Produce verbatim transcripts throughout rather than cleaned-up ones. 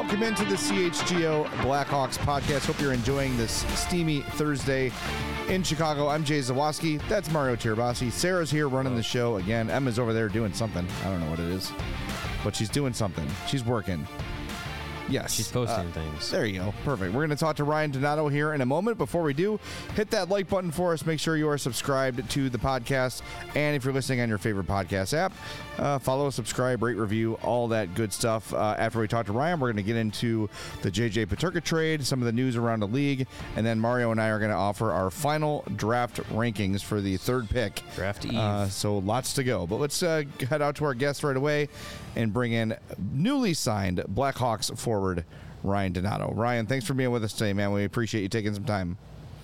Welcome into the C H G O Blackhawks podcast. Hope you're enjoying this steamy Thursday in Chicago. I'm Jay Zawoski. That's Mario Tirabassi. Sarah's here running the show again. Emma's over there doing something. I don't know what it is, but she's doing something. She's working. Yes. She's posting uh, things. There you go. Perfect. We're going to talk to Ryan Donato here in a moment. Before we do, hit that like button for us. Make sure you are subscribed to the podcast. And if you're listening on your favorite podcast app, uh, follow, subscribe, rate, review, all that good stuff. Uh, after we talk to Ryan, we're going to get into the J J Peterka trade, some of the news around the league, and then Mario and I are going to offer our final draft rankings for the third pick. Draft Eve. Uh, so lots to go. But let's uh, head out to our guests right away and bring in newly signed Blackhawks forward Ryan Donato. Ryan, thanks for being with us today, man. We appreciate you taking some time.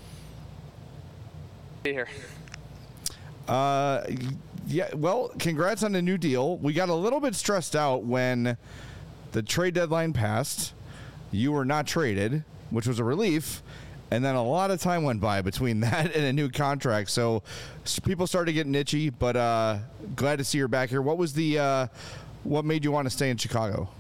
Be here. Uh, yeah. Well, congrats on the new deal. We got a little bit stressed out when the trade deadline passed. You were not traded, which was a relief. And then a lot of time went by between that and a new contract. So people started getting itchy, but uh, glad to see you're back here. What was the, uh, what made you want to stay in Chicago?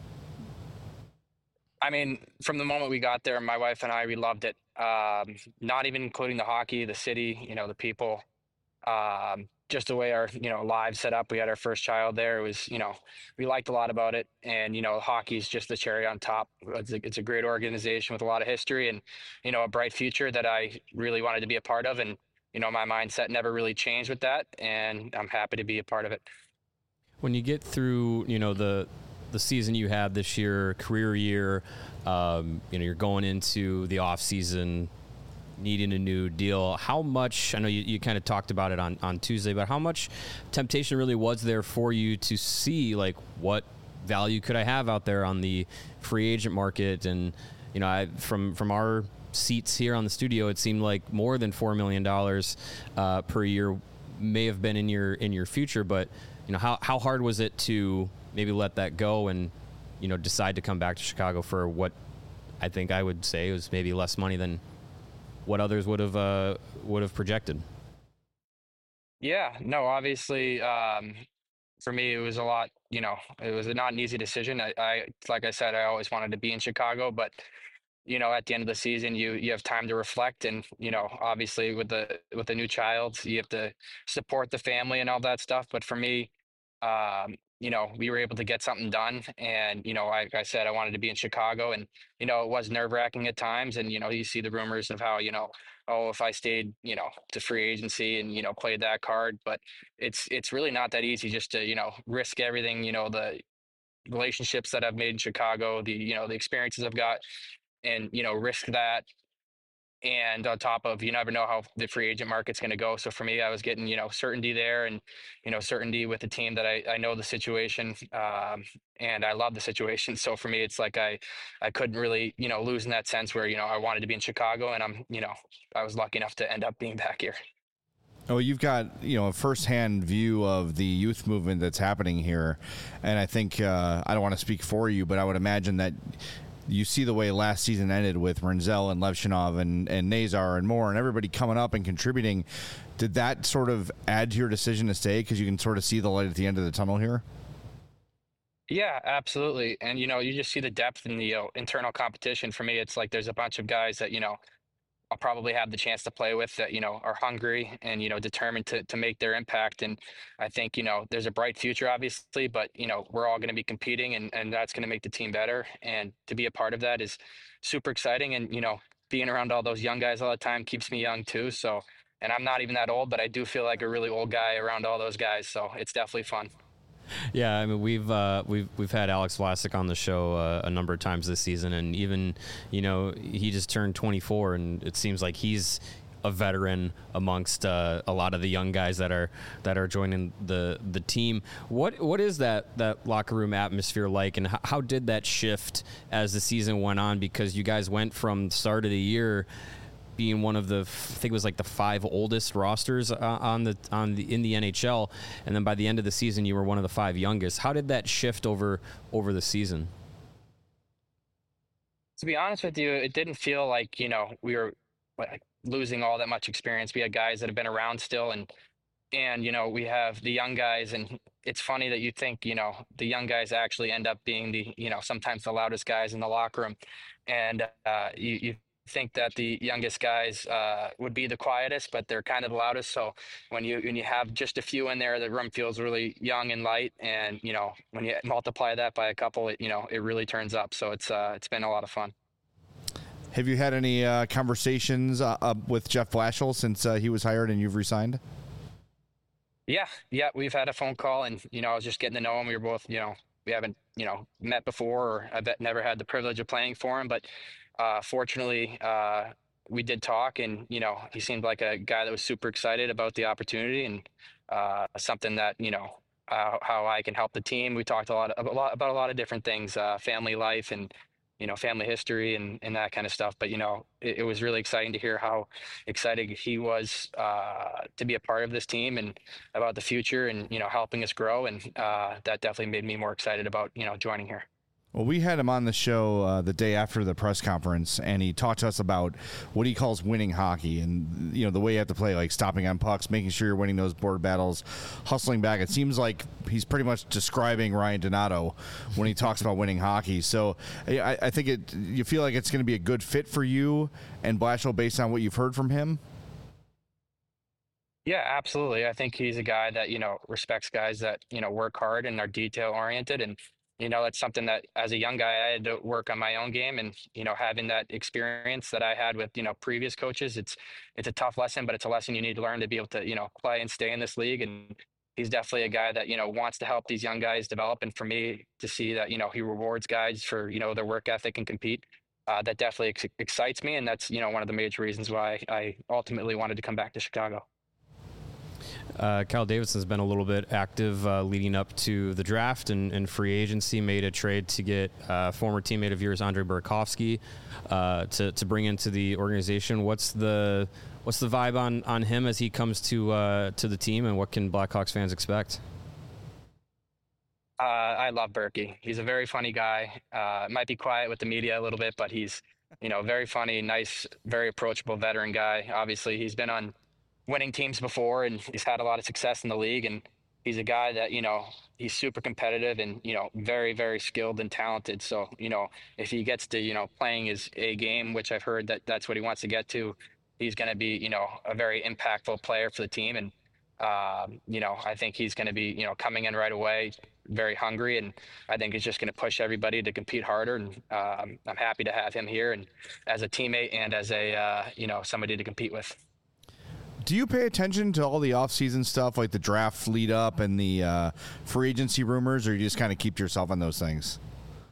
I mean, from the moment we got there, my wife and I, we loved it. Um, not even including the hockey, the city, you know, the people, um, just the way our, you know, lives set up. We had our first child there. It was, you know, we liked a lot about it. And, you know, hockey is just the cherry on top. It's a, it's a great organization with a lot of history and, you know, a bright future that I really wanted to be a part of. And, you know, my mindset never really changed with that. And I'm happy to be a part of it. When you get through, you know, the, the season you had this year, career year, um, you know, you're going into the off season, needing a new deal. How much, I know you, you kind of talked about it on, on Tuesday, but how much temptation really was there for you to see, like, what value could I have out there on the free agent market? And, you know, I, from, from our seats here on the studio, it seemed like more than four million dollars uh, per year may have been in your, in your future, but, you know, how, how hard was it to maybe let that go and, you know, decide to come back to Chicago for what I think I would say was maybe less money than what others would have uh, would have projected? Yeah, no, obviously, um, for me, it was a lot, you know, it was not an easy decision. I, I, like I said, I always wanted to be in Chicago, but, you know, at the end of the season, you, you have time to reflect. And, you know, obviously with the, with the new child, you have to support the family and all that stuff. But for me, um, you know, we were able to get something done. And, you know, like I said, I wanted to be in Chicago and, you know, it was nerve wracking at times. And, you know, you see the rumors of how, you know, oh, if I stayed, you know, to free agency and, you know, played that card, but it's, it's really not that easy just to, you know, risk everything, you know, the relationships that I've made in Chicago, the, you know, the experiences I've got and, you know, risk that. And on top of, you never know how the free agent market's going to go. So for me, I was getting, you know, certainty there and, you know, certainty with the team that I, I know the situation um, and I love the situation. So for me, it's like I, I couldn't really, you know, lose in that sense where, you know, I wanted to be in Chicago and I'm, you know, I was lucky enough to end up being back here. Oh, you've got, you know, a firsthand view of the youth movement that's happening here. And I think, uh, I don't want to speak for you, but I would imagine that you see the way last season ended with Renzel and Levchinov and, and Nazar and more and everybody coming up and contributing. Did that sort of add to your decision to stay because you can sort of see the light at the end of the tunnel here? Yeah, absolutely. And, you know, you just see the depth in the you know, internal competition. For me, it's like there's a bunch of guys that, you know, I'll probably have the chance to play with that, you know, are hungry and, you know, determined to, to make their impact. And I think, you know, there's a bright future, obviously, but, you know, we're all going to be competing and, and that's going to make the team better. And to be a part of that is super exciting. And, you know, being around all those young guys all the time keeps me young too. So, and I'm not even that old, but I do feel like a really old guy around all those guys. So it's definitely fun. Yeah, I mean we've uh, we've we've had Alex Vlasic on the show uh, a number of times this season, and even you know he just turned twenty-four, and it seems like he's a veteran amongst uh, a lot of the young guys that are that are joining the the team. What what is that that locker room atmosphere like, and how, how did that shift as the season went on? Because you guys went from the start of the year being one of the, I think it was like the five oldest rosters uh, on the on the in the N H L, and then by the end of the season, you were one of the five youngest. How did that shift over over the season? To be honest with you, it didn't feel like you know we were like losing all that much experience. We had guys that have been around still, and and you know we have the young guys, and it's funny that you think you know the young guys actually end up being the you know sometimes the loudest guys in the locker room, and uh, you you think that the youngest guys uh, would be the quietest, but they're kind of the loudest. So when you when you have just a few in there, the room feels really young and light, and you know when you multiply that by a couple, it you know it really turns up. So it's uh, it's been a lot of fun. Have you had any uh, conversations uh, uh, with Jeff Blashill since uh, he was hired and you've resigned? Yeah, yeah, we've had a phone call, and you know, I was just getting to know him. We were both, you know, we haven't, you know, met before, or I've never had the privilege of playing for him, but uh, fortunately, uh, we did talk, and you know, he seemed like a guy that was super excited about the opportunity, and uh, something that you know, uh, how I can help the team. We talked a lot, a lot about a lot of different things, uh, family life, and you know, family history, and and that kind of stuff. But you know, it, it was really exciting to hear how excited he was uh, to be a part of this team, and about the future, and you know helping us grow, and uh, that definitely made me more excited about you know joining here. Well, we had him on the show uh, the day after the press conference, and he talked to us about what he calls winning hockey, and you know the way you have to play, like stopping on pucks, making sure you're winning those board battles, hustling back. It seems like he's pretty much describing Ryan Donato when he talks about winning hockey. So I, I think it. You feel like it's going to be a good fit for you and Blashill based on what you've heard from him. Yeah, absolutely. I think he's a guy that, you know, respects guys that, you know, work hard and are detail oriented. And, you know, that's something that as a young guy, I had to work on my own game, and, you know, having that experience that I had with, you know, previous coaches, it's, it's a tough lesson, but it's a lesson you need to learn to be able to, you know, play and stay in this league. And he's definitely a guy that, you know, wants to help these young guys develop. And for me to see that, you know, he rewards guys for, you know, their work ethic and compete, uh, that definitely ex- excites me. And that's, you know, one of the major reasons why I ultimately wanted to come back to Chicago. Uh, Kyle Davidson's been a little bit active uh, leading up to the draft and, and free agency. Made a trade to get uh, former teammate of yours, Andre Burakovsky, uh, to to bring into the organization. What's the what's the vibe on, on him as he comes to uh, to the team, and what can Blackhawks fans expect? Uh, I love Berkey. He's a very funny guy. Uh, might be quiet with the media a little bit, but he's, you know, very funny, nice, very approachable veteran guy. Obviously, he's been on winning teams before, and he's had a lot of success in the league. And he's a guy that, you know, he's super competitive, and, you know, very, very skilled and talented. So, you know, if he gets to, you know, playing his A game, which I've heard that that's what he wants to get to, he's going to be, you know, a very impactful player for the team. And, um, you know, I think he's going to be, you know, coming in right away, very hungry. And I think he's just going to push everybody to compete harder. And um, I'm happy to have him here, and as a teammate, and as a, uh, you know, somebody to compete with. Do you pay attention to all the off-season stuff, like the draft lead up and the uh, free agency rumors, or you just kind of keep to yourself on those things?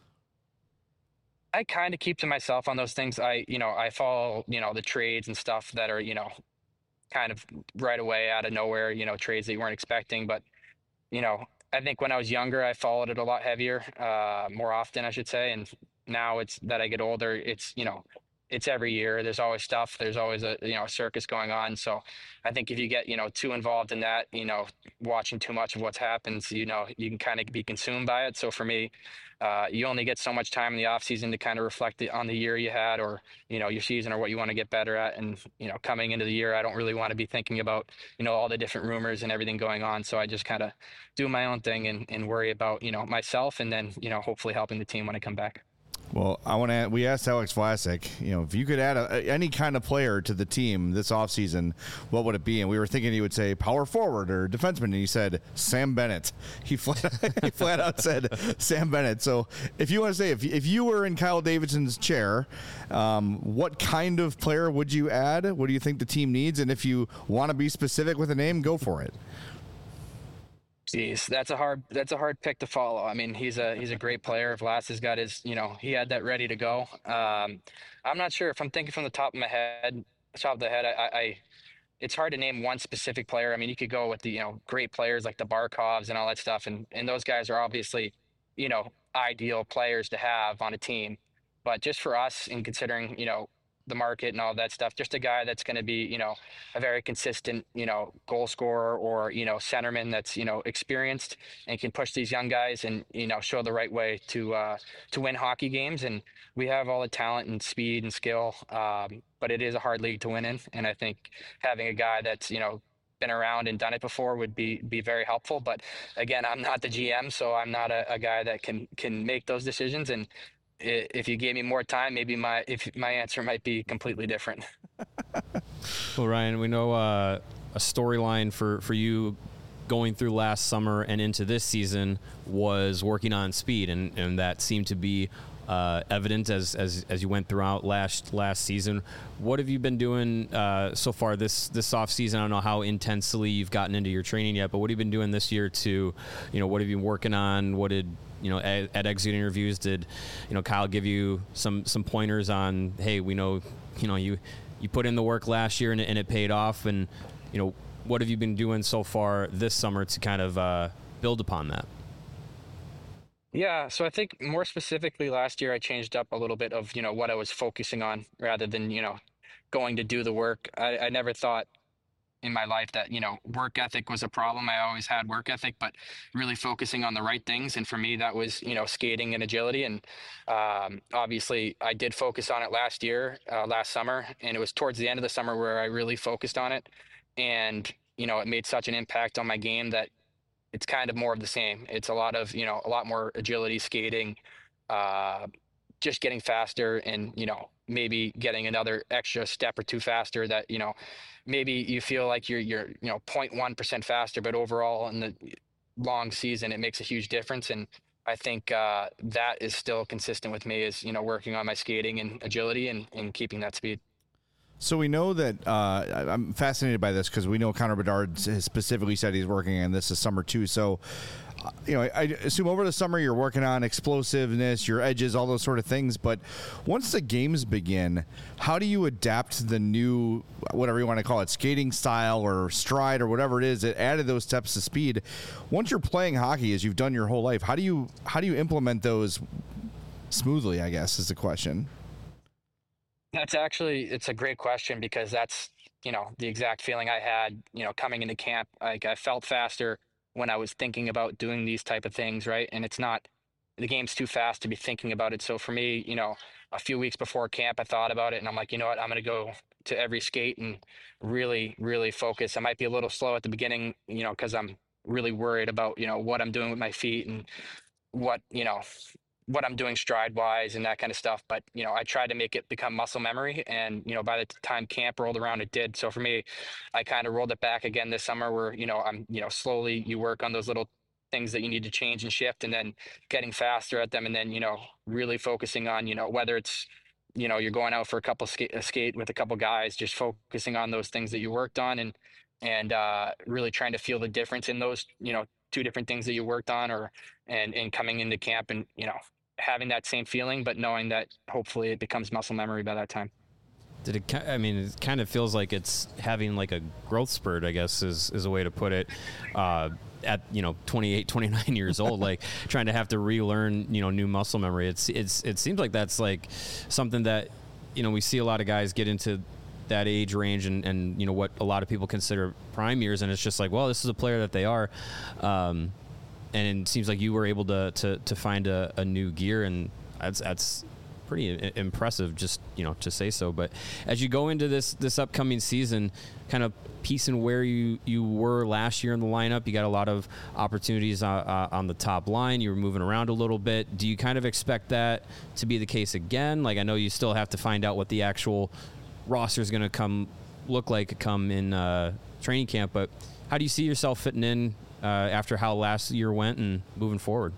I kind of keep to myself on those things. I, you know, I follow, you know, the trades and stuff that are, you know, kind of right away out of nowhere, you know, trades that you weren't expecting. But, you know, I think when I was younger, I followed it a lot heavier, uh, more often, I should say. And now it's that I get older, it's, you know, it's every year. There's always stuff. There's always a, you know, a circus going on. So I think if you get, you know, too involved in that, you know, watching too much of what's happened, you know, you can kind of be consumed by it. So for me, uh, you only get so much time in the off season to kind of reflect the, on the year you had, or, you know, your season, or what you want to get better at. And, you know, coming into the year, I don't really want to be thinking about, you know, all the different rumors and everything going on. So I just kind of do my own thing, and, and worry about, you know, myself, and then, you know, hopefully helping the team when I come back. Well, I want to. We asked Alex Vlasic, you know, if you could add a, any kind of player to the team this offseason, what would it be? And we were thinking he would say power forward or defenseman, and he said Sam Bennett. He flat, he flat out said Sam Bennett. So if you want to say, if if you were in Kyle Davidson's chair, um, what kind of player would you add? What do you think the team needs? And if you want to be specific with a name, go for it. Jeez, that's a hard that's a hard pick to follow. I mean, he's a he's a great player. Vlad has got his, you know, he had that ready to go. Um, I'm not sure if I'm thinking from the top of my head, top of the head. I, I it's hard to name one specific player. I mean, you could go with the, you know, great players like the Barkovs and all that stuff, and and those guys are obviously, you know, ideal players to have on a team. But just for us, in considering, you know, the market and all that stuff, just a guy that's going to be, you know, a very consistent, you know, goal scorer, or, you know, centerman that's, you know, experienced and can push these young guys, and, you know, show the right way to, uh, to win hockey games. And we have all the talent and speed and skill. Um, but it is a hard league to win in. And I think having a guy that's, you know, been around and done it before would be be very helpful. But again, I'm not the G M, so I'm not a, a guy that can can make those decisions. And if you gave me more time, maybe my if my answer might be completely different. Well, Ryan, we know uh, a storyline for for you going through last summer and into this season was working on speed, and, and that seemed to be uh, evident as, as as you went throughout last last season. What have you been doing uh, so far this this off season? I don't know how intensely you've gotten into your training yet, but what have you been doing this year to, you know, what have you been working on? What did you know at, at exit interviews? Did you know Kyle give you some some pointers on, hey, we know you know you you put in the work last year and, and it paid off, and you know what have you been doing so far this summer to kind of uh, build upon that? Yeah, so I think more specifically last year I changed up a little bit of, you know, what I was focusing on rather than, you know, going to do the work. I, I never thought in my life that, you know, work ethic was a problem. I always had work ethic, but really focusing on the right things. And for me, that was, you know, skating and agility. And um, obviously I did focus on it last year, uh, last summer, and it was towards the end of the summer where I really focused on it. And, you know, it made such an impact on my game that it's kind of more of the same. It's a lot of, you know, a lot more agility, skating, uh, just getting faster and, you know, maybe getting another extra step or two faster that, you know, maybe you feel like you're, you're, you know, zero point one percent faster, but overall in the long season, it makes a huge difference. And I think uh, that is still consistent with me is, you know, working on my skating and agility and, and keeping that speed. So we know that uh, I'm fascinated by this because we know Connor Bedard has specifically said he's working on this this summer too. So, uh, you know, I, I assume over the summer you're working on explosiveness, your edges, all those sort of things. But once the games begin, how do you adapt the new, whatever you want to call it, skating style or stride or whatever it is that added those steps to speed? Once you're playing hockey, as you've done your whole life, how do you how do you implement those smoothly, I guess, is the question. That's actually, it's a great question because that's, you know, the exact feeling I had, you know, coming into camp. Like I felt faster when I was thinking about doing these type of things, right? And it's not, the game's too fast to be thinking about it. So for me, you know, a few weeks before camp, I thought about it and I'm like, you know what, I'm going to go to every skate and really, really focus. I might be a little slow at the beginning, you know, because I'm really worried about, you know, what I'm doing with my feet and what, you know, what I'm doing stride wise and that kind of stuff. But, you know, I tried to make it become muscle memory. And, you know, by the time camp rolled around, it did. So for me, I kind of rolled it back again this summer where, you know, I'm, you know, slowly you work on those little things that you need to change and shift and then getting faster at them. And then, you know, really focusing on, you know, whether it's, you know, you're going out for a couple skate, a skate with a couple guys, just focusing on those things that you worked on and, and uh, really trying to feel the difference in those, you know, two different things that you worked on or, and, and coming into camp and, you know, having that same feeling, but knowing that hopefully it becomes muscle memory by that time. Did it, I mean, it kind of feels like it's having like a growth spurt, I guess is, is a way to put it, uh, at, you know, twenty-eight, twenty-nine years old, like trying to have to relearn, you know, new muscle memory. It's, it's, it seems like that's like something that, you know, we see a lot of guys get into that age range and, and, you know, what a lot of people consider prime years. And it's just like, well, this is a player that they are. Um, And it seems like you were able to to, to find a, a new gear, and that's that's pretty impressive, just, you know, to say so. But as you go into this this upcoming season, kind of piecing where you, you were last year in the lineup, you got a lot of opportunities uh, uh, on the top line. You were moving around a little bit. Do you kind of expect that to be the case again? Like, I know you still have to find out what the actual roster is going to come look like come in uh, training camp, but how do you see yourself fitting in Uh, after how last year went and moving forward?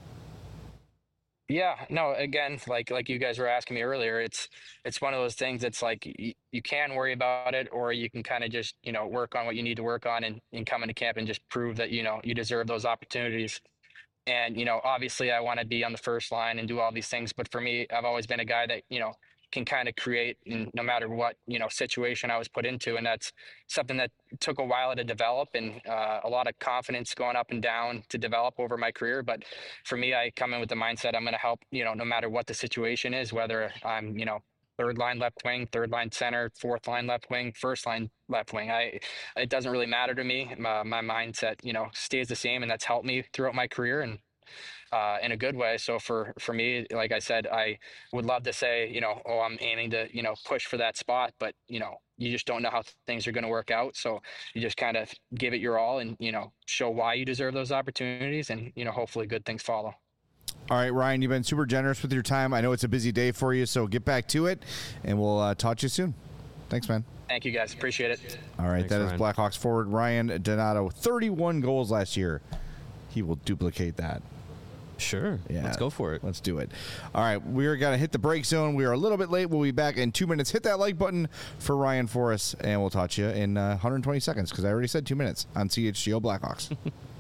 Yeah, no, again, like like you guys were asking me earlier, it's it's one of those things that's like you, you can worry about it or you can kind of just, you know, work on what you need to work on and, and come into camp and just prove that, you know, you deserve those opportunities. And, you know, obviously I want to be on the first line and do all these things, but for me, I've always been a guy that, you know, can kind of create in no matter what, you know, situation I was put into. And that's something that took a while to develop and uh, a lot of confidence going up and down to develop over my career. But for me, I come in with the mindset I'm going to help, you know, no matter what the situation is, whether I'm, you know, third line left wing, third line center, fourth line left wing, first line left wing. I, it doesn't really matter to me. My, my mindset, you know, stays the same, and that's helped me throughout my career. And uh, in a good way. So for, for me, like I said, I would love to say, you know, oh, I'm aiming to, you know, push for that spot, but, you know, you just don't know how things are going to work out. So you just kind of give it your all and, you know, show why you deserve those opportunities, and, you know, hopefully good things follow. All right, Ryan, you've been super generous with your time. I know it's a busy day for you, so get back to it, and we'll uh, talk to you soon. Thanks, man. Thank you, guys. Appreciate it. All right, Thanks, that Ryan. is Blackhawks forward Ryan Donato. thirty-one goals last year. He will duplicate that. Sure. Yeah. Let's go for it. Let's do it. All right, we're going to hit the break zone. We are a little bit late. We'll be back in two minutes. Hit that like button for Ryan for us, and we'll talk to you in uh, one hundred twenty seconds, because I already said two minutes on C H G O Blackhawks.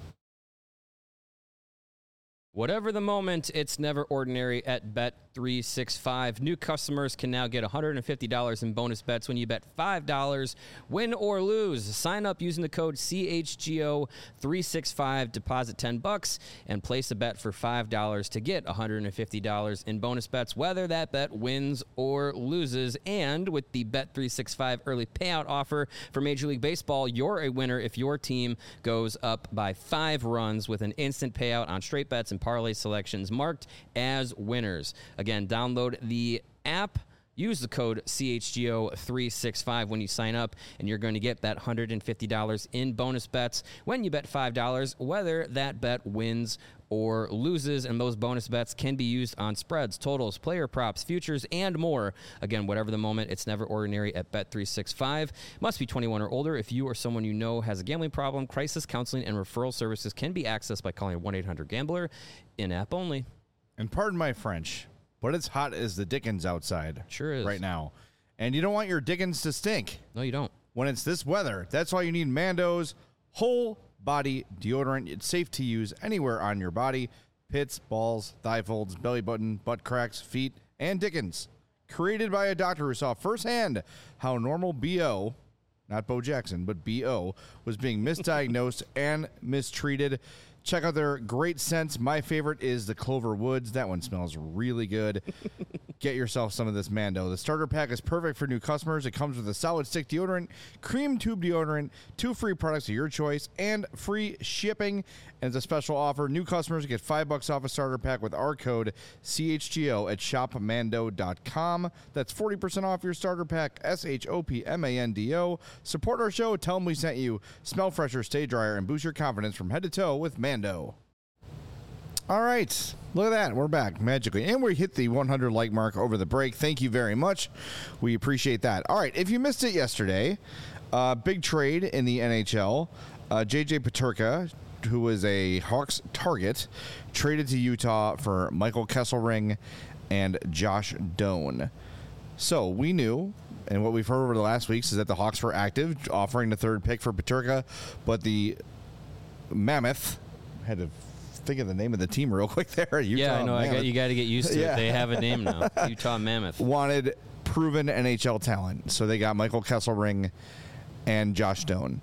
Whatever the moment, it's never ordinary at Bet three sixty-five. New customers can now get one hundred fifty dollars in bonus bets when you bet five dollars, win or lose. Sign up using the code C H G O three sixty-five, deposit ten bucks, and place a bet for five dollars to get one hundred fifty dollars in bonus bets, whether that bet wins or loses. And with the Bet three sixty-five early payout offer for Major League Baseball, you're a winner if your team goes up by five runs with an instant payout on straight bets and parlay selections marked as winners. Again, download the app, use the code C H G O three sixty-five when you sign up, and you're going to get that one hundred fifty dollars in bonus bets when you bet five dollars, whether that bet wins or loses. And those bonus bets can be used on spreads, totals, player props, futures, and more. Again, whatever the moment, it's never ordinary at Bet three sixty-five. Must be twenty-one or older. If you or someone you know has a gambling problem, crisis counseling and referral services can be accessed by calling one eight hundred gambler, in-app only. And pardon my French, but it's hot as the dickens outside. Sure is. Right now. And you don't want your dickens to stink. No, you don't. When it's this weather, that's why you need Mando's whole body deodorant. It's safe to use anywhere on your body. Pits, balls, thigh folds, belly button, butt cracks, feet, and dickens. Created by a doctor who saw firsthand how normal B O, not Bo Jackson, but B O, was being misdiagnosed and mistreated. Check out their great scents. My favorite is the Clover Woods. That one smells really good. Get yourself some of this Mando. The starter pack is perfect for new customers. It comes with a solid stick deodorant, cream tube deodorant, two free products of your choice, and free shipping. And as a special offer, new customers get five bucks off a starter pack with our code C H G O at shop mando dot com. That's forty percent off your starter pack, S H O P M A N D O. Support our show. Tell them we sent you. Smell fresher, stay drier, and boost your confidence from head to toe with Mando. All right. Look at that. We're back magically. And we hit the one hundred like mark over the break. Thank you very much. We appreciate that. All right. If you missed it yesterday, uh, big trade in the N H L. Uh, J J Peterka, who was a Hawks target, traded to Utah for Michael Kesselring and Josh Doan. So we knew, and what we've heard over the last weeks is that the Hawks were active, offering the third pick for Peterka, but the Mammoth had to think of the name of the team real quick there. Utah yeah, I know. I got, you got to get used to Yeah. it. They have a name now. Utah Mammoth. Wanted proven N H L talent, so they got Michael Kesselring and Josh Doan.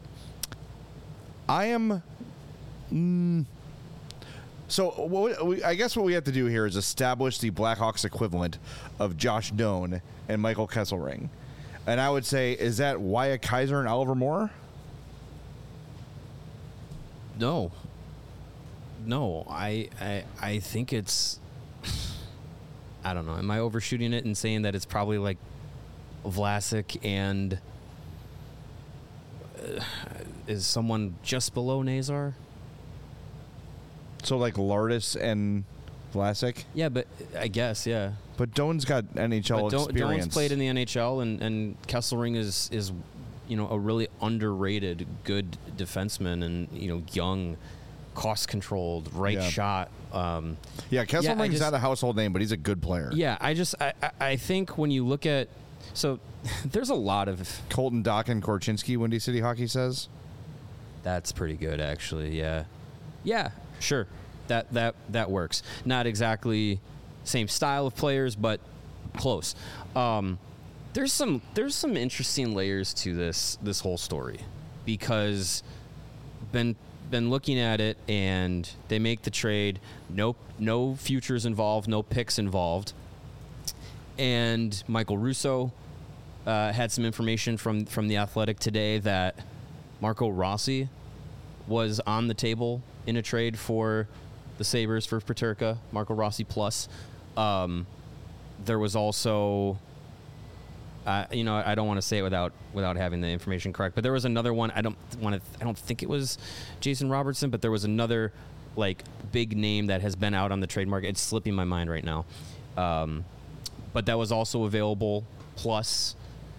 I am. Mm, so what we, I guess what we have to do here is establish the Blackhawks equivalent of Josh Doan and Michael Kesselring. And I would say, is that Wyatt Kaiser and Oliver Moore? No. No, I, I I think it's, I don't know. Am I overshooting it and saying that it's probably like Vlasic and uh, is someone just below Nazar? So like Lardis and Vlasic? Yeah, but I guess, yeah. But Doan's got N H L But Don, experience. Doan's played in the N H L, and, and Kesselring is, is, you know, a really underrated good defenseman and, you know, young, cost-controlled, right Yeah. shot. Um, Yeah, Kesselring's just- not a household name, but he's a good player. yeah, I just, I, I- I think when you look at, so there's a lot of, Colton Dock and Korchinski, Windy City Hockey says. that's pretty good, actually, yeah. Yeah, sure, that, that, that works. Not exactly same style of players, but close. Um, there's some, there's some interesting layers to this, this whole story, because been been looking at it, and they make the trade. No, no futures involved, no picks involved. And Michael Russo uh, had some information from from the Athletic today that Marco Rossi was on the table in a trade for the Sabres for Peterka. Marco Rossi plus. Um, there was also Uh, you know, I don't want to say it without without having the information correct. But there was another one. I don't want to. I don't think it was Jason Robertson, but there was another like big name that has been out on the trade market. It's slipping my mind right now. Um, but that was also available plus.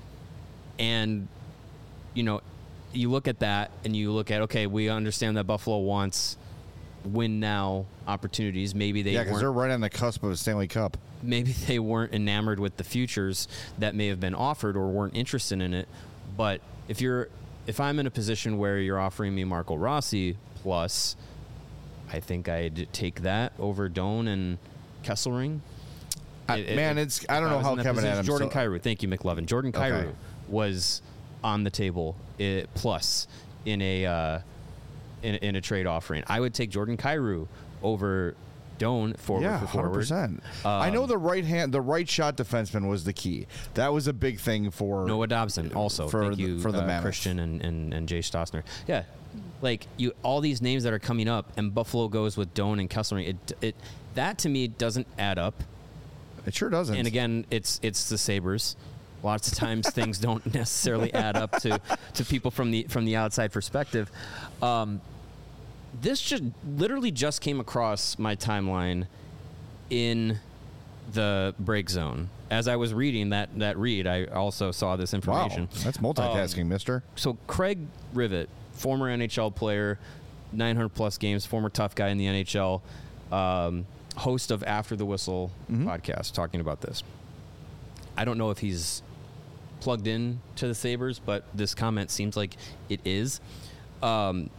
And you know, you look at that and you look at okay, we understand that Buffalo wants win now opportunities. Maybe they yeah, because weren't- they're right on the cusp of a Stanley Cup. maybe they weren't enamored with the futures that may have been offered or weren't interested in it. But if you're, if I'm in a position where you're offering me Marco Rossi plus, I think I'd take that over Doan and Kesselring. I, It- man, it- it's I don't if know was how in that Kevin position- Adams. Jordan still- Kyrou. Thank you, McLovin. Jordan Kyrou Okay. was on the table uh, plus in a uh, in, in a trade offering. I would take Jordan Kyrou over Doan forward Yeah, for hundred forward. percent. I know the right hand, the right shot defenseman was the key. That was a big thing for Noah Dobson also. for Thank the- you, for the uh, Mammoth. Christian and, and, and Jay Stossner. Yeah, like you, all these names that are coming up, and Buffalo goes with Doan and Kesselring. It, it, that to me doesn't add up. It sure doesn't. And again, it's it's the Sabres. Lots of times things don't necessarily add up to, to people from the from the outside perspective. Um, this just literally just came across my timeline in the break zone. As I was reading that, that read, I also saw this wow, information. that's multitasking, Um, Mister. So Craig Rivet, former N H L player, nine hundred plus games, former tough guy in the N H L, um, host of After the Whistle Mm-hmm. podcast, talking about this. I don't know if he's plugged in to the Sabres, but this comment seems like it is. Um,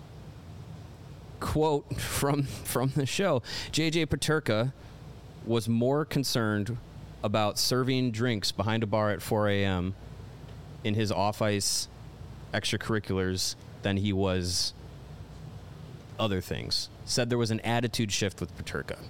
quote from from the show: J J Peterka was more concerned about serving drinks behind a bar at four a.m. in his off-ice extracurriculars than he was other things. Said there was an attitude shift with Peterka.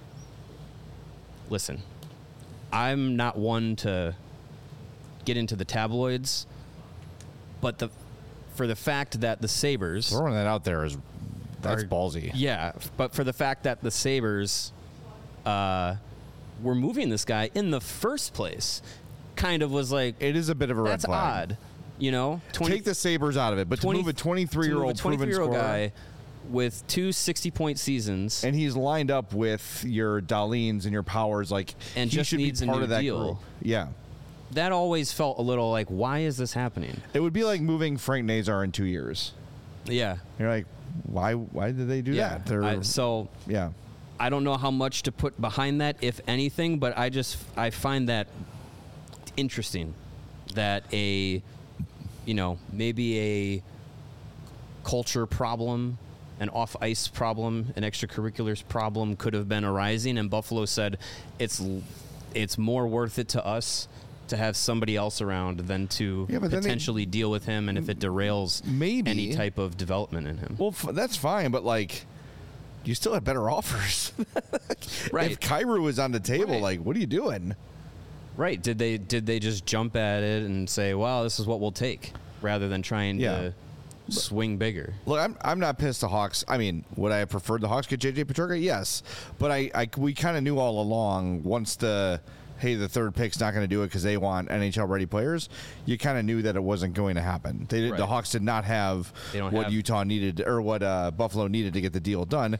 Listen, I'm not one to get into the tabloids, but the for the fact that the Sabres Throwing that out there is that's are- ballsy. Yeah, but for the fact that the Sabres uh, were moving this guy in the first place, kind of was like, It is a bit of a red that's flag. odd. You know, twenty, Take the Sabres out of it, but twenty to move a twenty-three-year-old to move a proven twenty-three-year-old scorer, guy with two sixty-point seasons and he's lined up with your Dahleens and your Powers, like And he just should needs a be part new of that deal. group. Yeah, that always felt a little like, why is this happening? it would be like moving Frank Nazar in two years. Yeah, You're like, why? Why did they do yeah. that? They're, I, so yeah. I don't know how much to put behind that, if anything, but I just I find that interesting that a you know maybe a culture problem, an off ice problem, an extracurriculars problem could have been arising, and Buffalo said it's it's more worth it to us to have somebody else around than to Yeah, but then they- potentially deal with him, and if it derails Maybe. any type of development in him. Well, f- that's fine, but like, you still have better offers. Right. If Kyrou is on the table, Right. like, what are you doing? Right. Did they did they just jump at it and say, "Wow, this is what we'll take," rather than trying Yeah. to swing bigger? Look, I'm I'm not pissed the Hawks. I mean, would I have preferred the Hawks get J J Peterka? Yes, but I, I we kind of knew all along once the hey the third pick's not going to do it because they want N H L ready players. You kind of knew that it wasn't going to happen. They did, the Right. Hawks did not have They don't what have- Utah needed or what uh, Buffalo needed to get the deal done.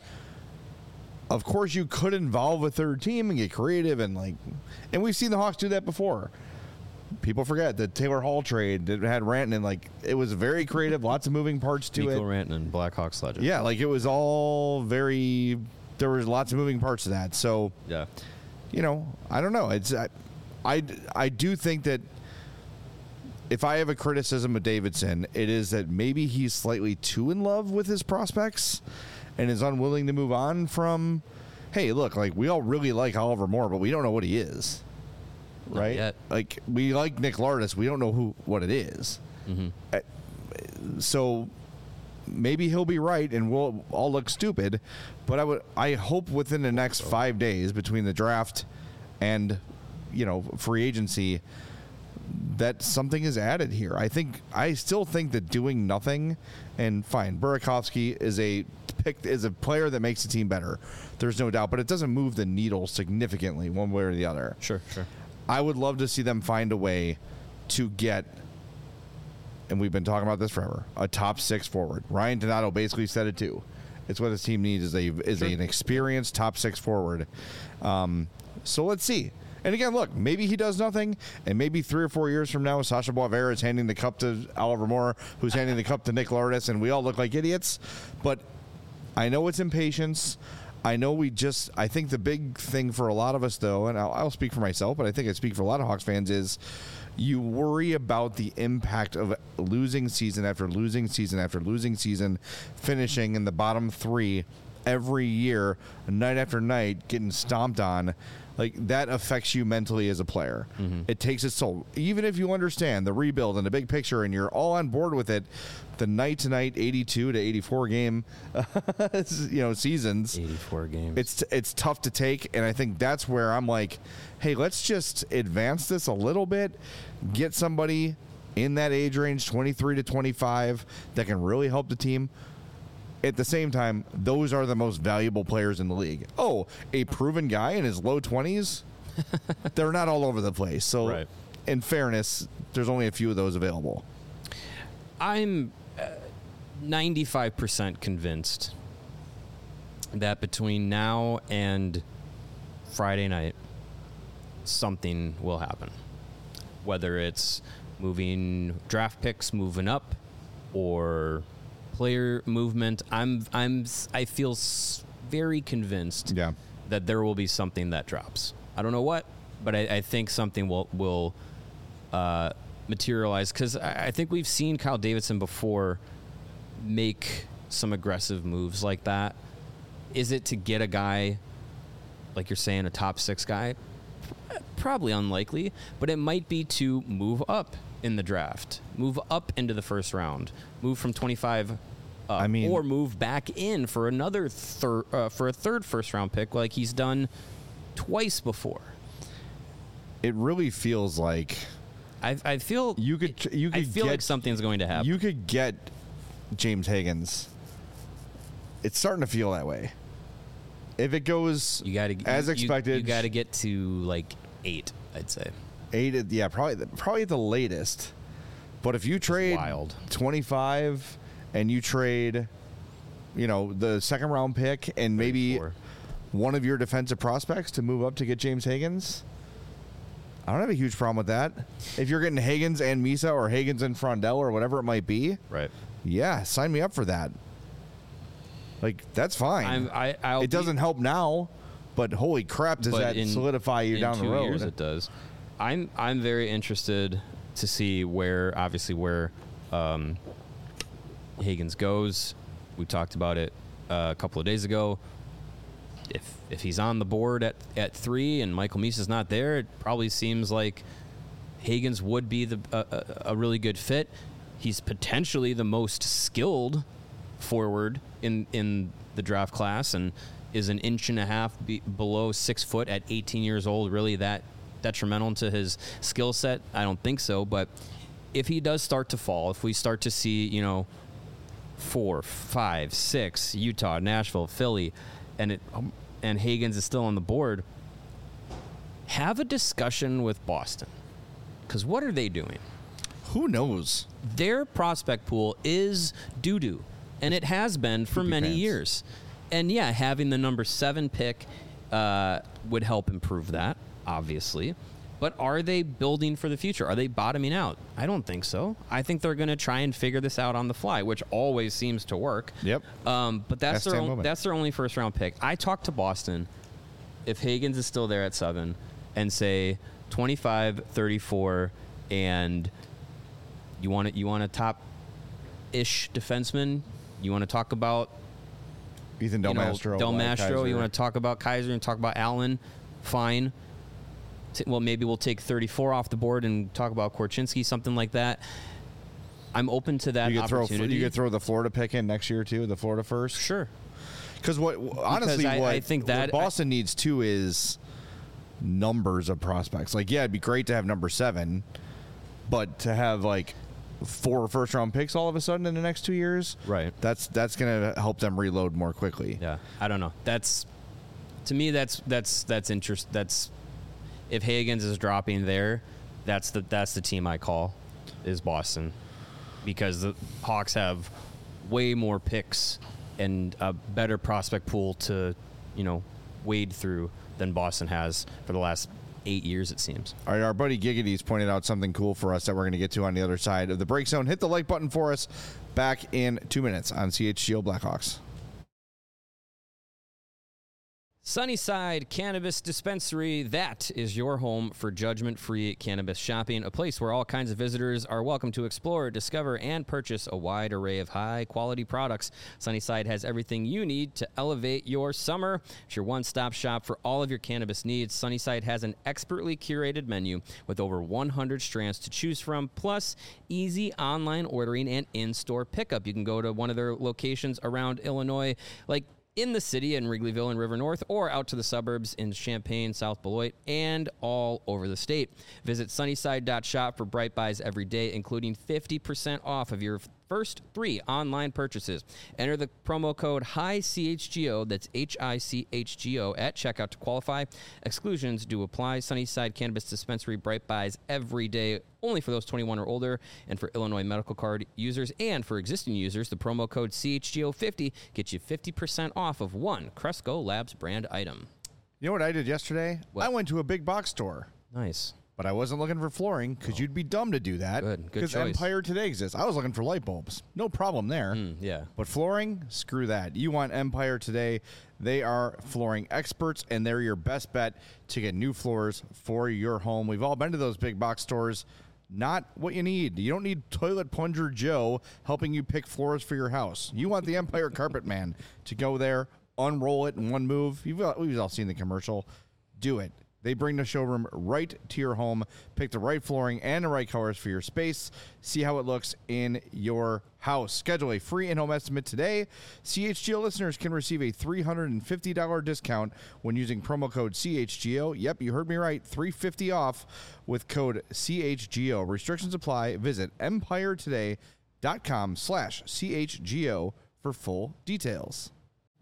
Of course, you could involve a third team and get creative and like, and we've seen the Hawks do that before. People forget the Taylor Hall trade that had Rantanen. Like, it was very creative, lots of moving parts to Nico it. Rantanen, Blackhawks legend. Yeah, like it was all very. There was lots of moving parts to that. So, Yeah. you know, I don't know. It's I, I, I do think that if I have a criticism of Davidson, it is that maybe he's slightly too in love with his prospects and is unwilling to move on from. Hey, look, like we all really like Oliver Moore, but we don't know what he is. Not Right? yet. Like we like Nick Lardis, we don't know who what it is. Uh, So maybe he'll be right and we'll all look stupid, but I would I hope within the next five days between the draft and you know free agency that something is added here. I think I still think that doing nothing and fine, Burakovsky is a pick is a player that makes the team better. There's no doubt, but it doesn't move the needle significantly one way or the other. Sure, sure. I would love to see them find a way to get, and we've been talking about this forever, a top six forward. Ryan Donato basically said it too. It's what his team needs is a is Sure. an experienced top six forward. Um, so let's see. And again, look, maybe he does nothing, and maybe three or four years from now, Sasha Boisvert is handing the cup to Oliver Moore, who's handing the cup to Nick Lourdes, and we all look like idiots. But I know it's impatience. I know we just, I think the big thing for a lot of us, though, and I'll, I'll speak for myself, but I think I speak for a lot of Hawks fans, is you worry about the impact of losing season after losing season after losing season, finishing in the bottom three every year, night after night, getting stomped on. Like, that affects you mentally as a player. Mm-hmm. It takes its toll. Even if you understand the rebuild and the big picture and you're all on board with it, the night-to-night eighty-two to eighty-four game you know, seasons, eighty-four games. It's it's tough to take, and I think that's where I'm like, hey, let's just advance this a little bit, get somebody in that age range, twenty-three to twenty-five, that can really help the team. At the same time, those are the most valuable players in the league. Oh, a proven guy in his low twenties? They're not all over the place. So, Right. in fairness, there's only a few of those available. I'm uh, ninety-five percent convinced that between now and Friday night, something will happen. Whether it's moving draft picks, moving up, or player movement, I'm I'm I feel s- very convinced Yeah. that there will be something that drops. I don't know what, but I, I think something will will uh, materialize, because I, I think we've seen Kyle Davidson before make some aggressive moves like that. Is it to get a guy, like you're saying, a top six guy? Probably unlikely, but it might be to move up in the draft, move up into the first round, move from twenty-five up, I mean- or move back in for another third, uh, for a third first round pick, like he's done twice before. It really feels like I, I feel you could you could I feel get, like something's going to happen. You could get James Higgins. It's starting to feel that way. If it goes You got to as you, expected, You, you got to get to like eight, I'd say. eight. at- Yeah, probably the, probably at the latest. But if you trade wild. twenty-five and you trade, you know, the second round pick and maybe thirty-four. one of your defensive prospects to move up to get James Higgins, I don't have a huge problem with that. If you're getting Higgins and Misa or Higgins and Frondell or whatever it might be, Right. yeah, sign me up for that. Like, that's fine. I'm, I, I'll it doesn't be, help now, but holy crap, does but that in- solidify you in down two the road? Years it does. I'm I'm very interested to see where, obviously, where um, Higgins goes. We talked about it uh, a couple of days ago. If if he's on the board at, at three and Michael Misa's not there, it probably seems like Higgins would be the uh, a, a really good fit. He's potentially the most skilled forward in in the draft class, and is an inch and a half be below six foot at eighteen years old really that detrimental to his skill set? I don't think so. But if he does start to fall, if we start to see, you know, four, five, six, Utah, Nashville, Philly, and it um, and Higgins is still on the board, have a discussion with Boston, because what are they doing? Who knows? Their prospect pool is doo-doo, and it has been for Poopy many pants. years. And yeah, having the number seven pick uh, would help improve that, obviously. But are they building for the future? Are they bottoming out? I don't think so. I think they're going to try and figure this out on the fly, which always seems to work. Yep. Um, but that's Ask their Sam on, Bowman. that's their only first round pick. I talked to Boston. If Higgins is still there at seven, and say twenty-five, thirty-four, and you want it, you want a top ish defenseman. You want to talk about Ethan Del you know, Mastro. Del Wyatt Mastro. You Kaiser. want to talk about Kaiser and talk about Allen. Fine. T- well, maybe we'll take thirty-four off the board and talk about Korchinski, something like that. I'm open to that you could throw opportunity. you could throw the Florida pick in next year too, the Florida first. Sure. Because what honestly, I- what I think what that- Boston needs too is numbers of prospects. Like, yeah, it'd be great to have number seven, but to have like four first round picks all of a sudden in the next two years, Right. That's that's gonna help them reload more quickly. Yeah, I don't know. That's to me. That's that's that's interest. That's if Higgins is dropping there, that's the that's the team I call is Boston, because the Hawks have way more picks and a better prospect pool to, you know, wade through than Boston has for the last eight years, it seems. All right, our buddy Giggity's pointed out something cool for us that we're going to get to on the other side of the break zone. Hit the like button for us. Back in two minutes on C H G O Blackhawks. Sunnyside Cannabis Dispensary, that is your home for judgment-free cannabis shopping, a place where all kinds of visitors are welcome to explore, discover, and purchase a wide array of high-quality products. Sunnyside has everything you need to elevate your summer. It's your one-stop shop for all of your cannabis needs. Sunnyside has an expertly curated menu with over one hundred strands to choose from, plus easy online ordering and in-store pickup. You can go to one of their locations around Illinois, like in the city in Wrigleyville and River North, or out to the suburbs in Champaign, South Beloit, and all over the state. Visit sunnyside dot shop for Bright Buys every day, including fifty percent off of your first three online purchases. Enter the promo code HICHGO, that's H I C H G O, at checkout to qualify. Exclusions do apply. Sunnyside Cannabis Dispensary, Bright Buys every day, only for those twenty-one or older, and for Illinois medical card users. And for existing users, the promo code C H G O fifty gets you fifty percent off of one Cresco Labs brand item. You know what I did yesterday? What? I went to a big box store. Nice. But I wasn't looking for flooring because you'd be dumb to do that. Good, good Because choice. Empire Today exists. I was looking for light bulbs. No problem there. Mm, yeah. But flooring, screw that. You want Empire Today. They are flooring experts, and they're your best bet to get new floors for your home. We've all been to those big box stores. Not what you need. You don't need Toilet Plunger Joe helping you pick floors for your house. You want the Empire Carpet Man to go there, unroll it in one move. You've all, we've all seen the commercial. Do it. They bring the showroom right to your home. Pick the right flooring and the right colors for your space. See how it looks in your house. Schedule a free in-home estimate today. C H G O listeners can receive a three hundred fifty dollars discount when using promo code C H G O. Yep, you heard me right. three hundred fifty dollars off with code C H G O. Restrictions apply. Visit empire today dot com slash C H G O for full details.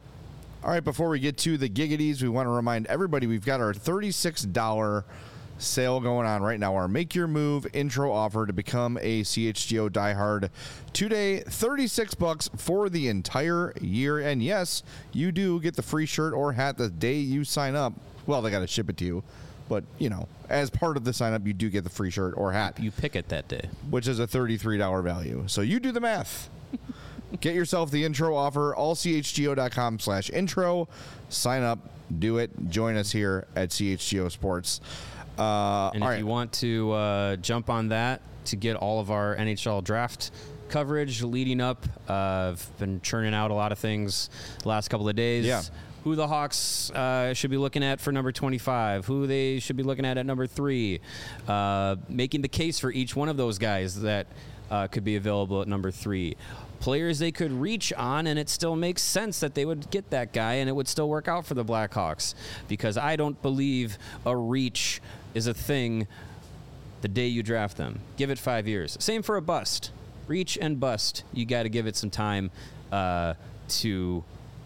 All right, before we get to the Giggities, we want to remind everybody we've got our thirty-six dollars sale going on right now. Our Make Your Move intro offer to become a C H G O diehard today. thirty-six bucks for the entire year. And yes, you do get the free shirt or hat the day you sign up. Well, they got to ship it to you. But, you know, as part of the sign up, you do get the free shirt or hat. You pick it that day. Which is a thirty-three dollars value. So you do the math. Get yourself the intro offer, all C H G O dot com slash intro. Sign up, do it. Join us here at C H G O Sports. Uh, and if all right. you want to uh, jump on that to get all of our N H L draft coverage leading up, uh, I've been churning out a lot of things the last couple of days. Yeah. Who the Hawks uh, should be looking at for number twenty-five, who they should be looking at at number three, uh, making the case for each one of those guys that uh, could be available at number three. Players they could reach on, and it still makes sense that they would get that guy, and it would still work out for the Blackhawks, because I don't believe a reach is a thing the day you draft them. Give it five years. Same for a bust. Reach and bust. You got to give it some time uh, to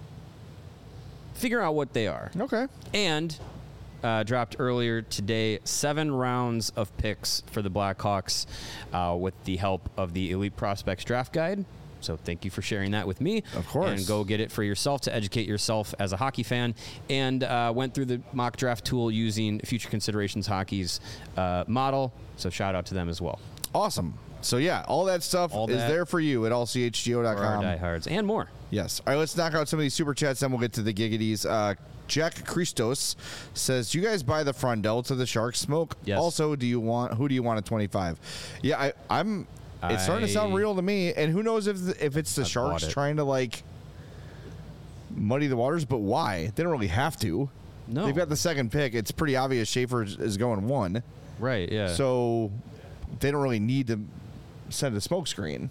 figure out what they are. Okay. And uh, dropped earlier today, seven rounds of picks for the Blackhawks uh, with the help of the Elite Prospects Draft Guide. So thank you for sharing that with me. Of course. And go get it for yourself to educate yourself as a hockey fan. And uh, went through the mock draft tool using Future Considerations Hockey's uh, model. So shout out to them as well. Awesome. So, yeah, all that stuff All is that there for you at all C H G O dot For our com. diehards and more. Yes. All right, let's knock out some of these super chats, then we'll get to the Giggities. Uh, Jack Christos says, do you guys buy the Frondell to the Sharks smoke? Yes. Also, do you want who do you want at twenty-five? Yeah, I, I'm it's starting to sound I- real to me, and who knows if the, if it's the I've Sharks bought it. trying to like muddy the waters, but why? They don't really have to. No. They've got the second pick. It's pretty obvious Schaefer is- is going one. Right, yeah. So they don't really need to send a smoke screen.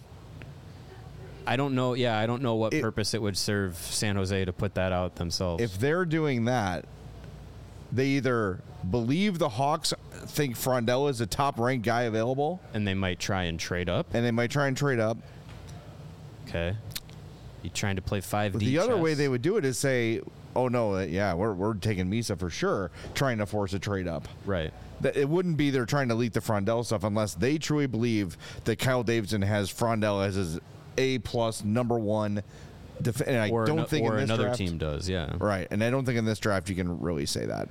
I don't know. Yeah, I don't know what It- purpose it would serve San Jose to put that out themselves. If they're doing that, they either believe the Hawks think Frondell is the top-ranked guy available, and they might try and trade up. and they might try and trade up. Okay. You trying to play five But D the other way chess? they would do it is say, oh no, uh, yeah, we're we're taking Misa for sure, trying to force a trade up. Right. That it wouldn't be they're trying to leak the Frondell stuff unless they truly believe that Kyle Davidson has Frondell as his A plus number one. Def- and I or don't no, think or in this another draft, team does. Yeah. right. And I don't think in this draft you can really say that.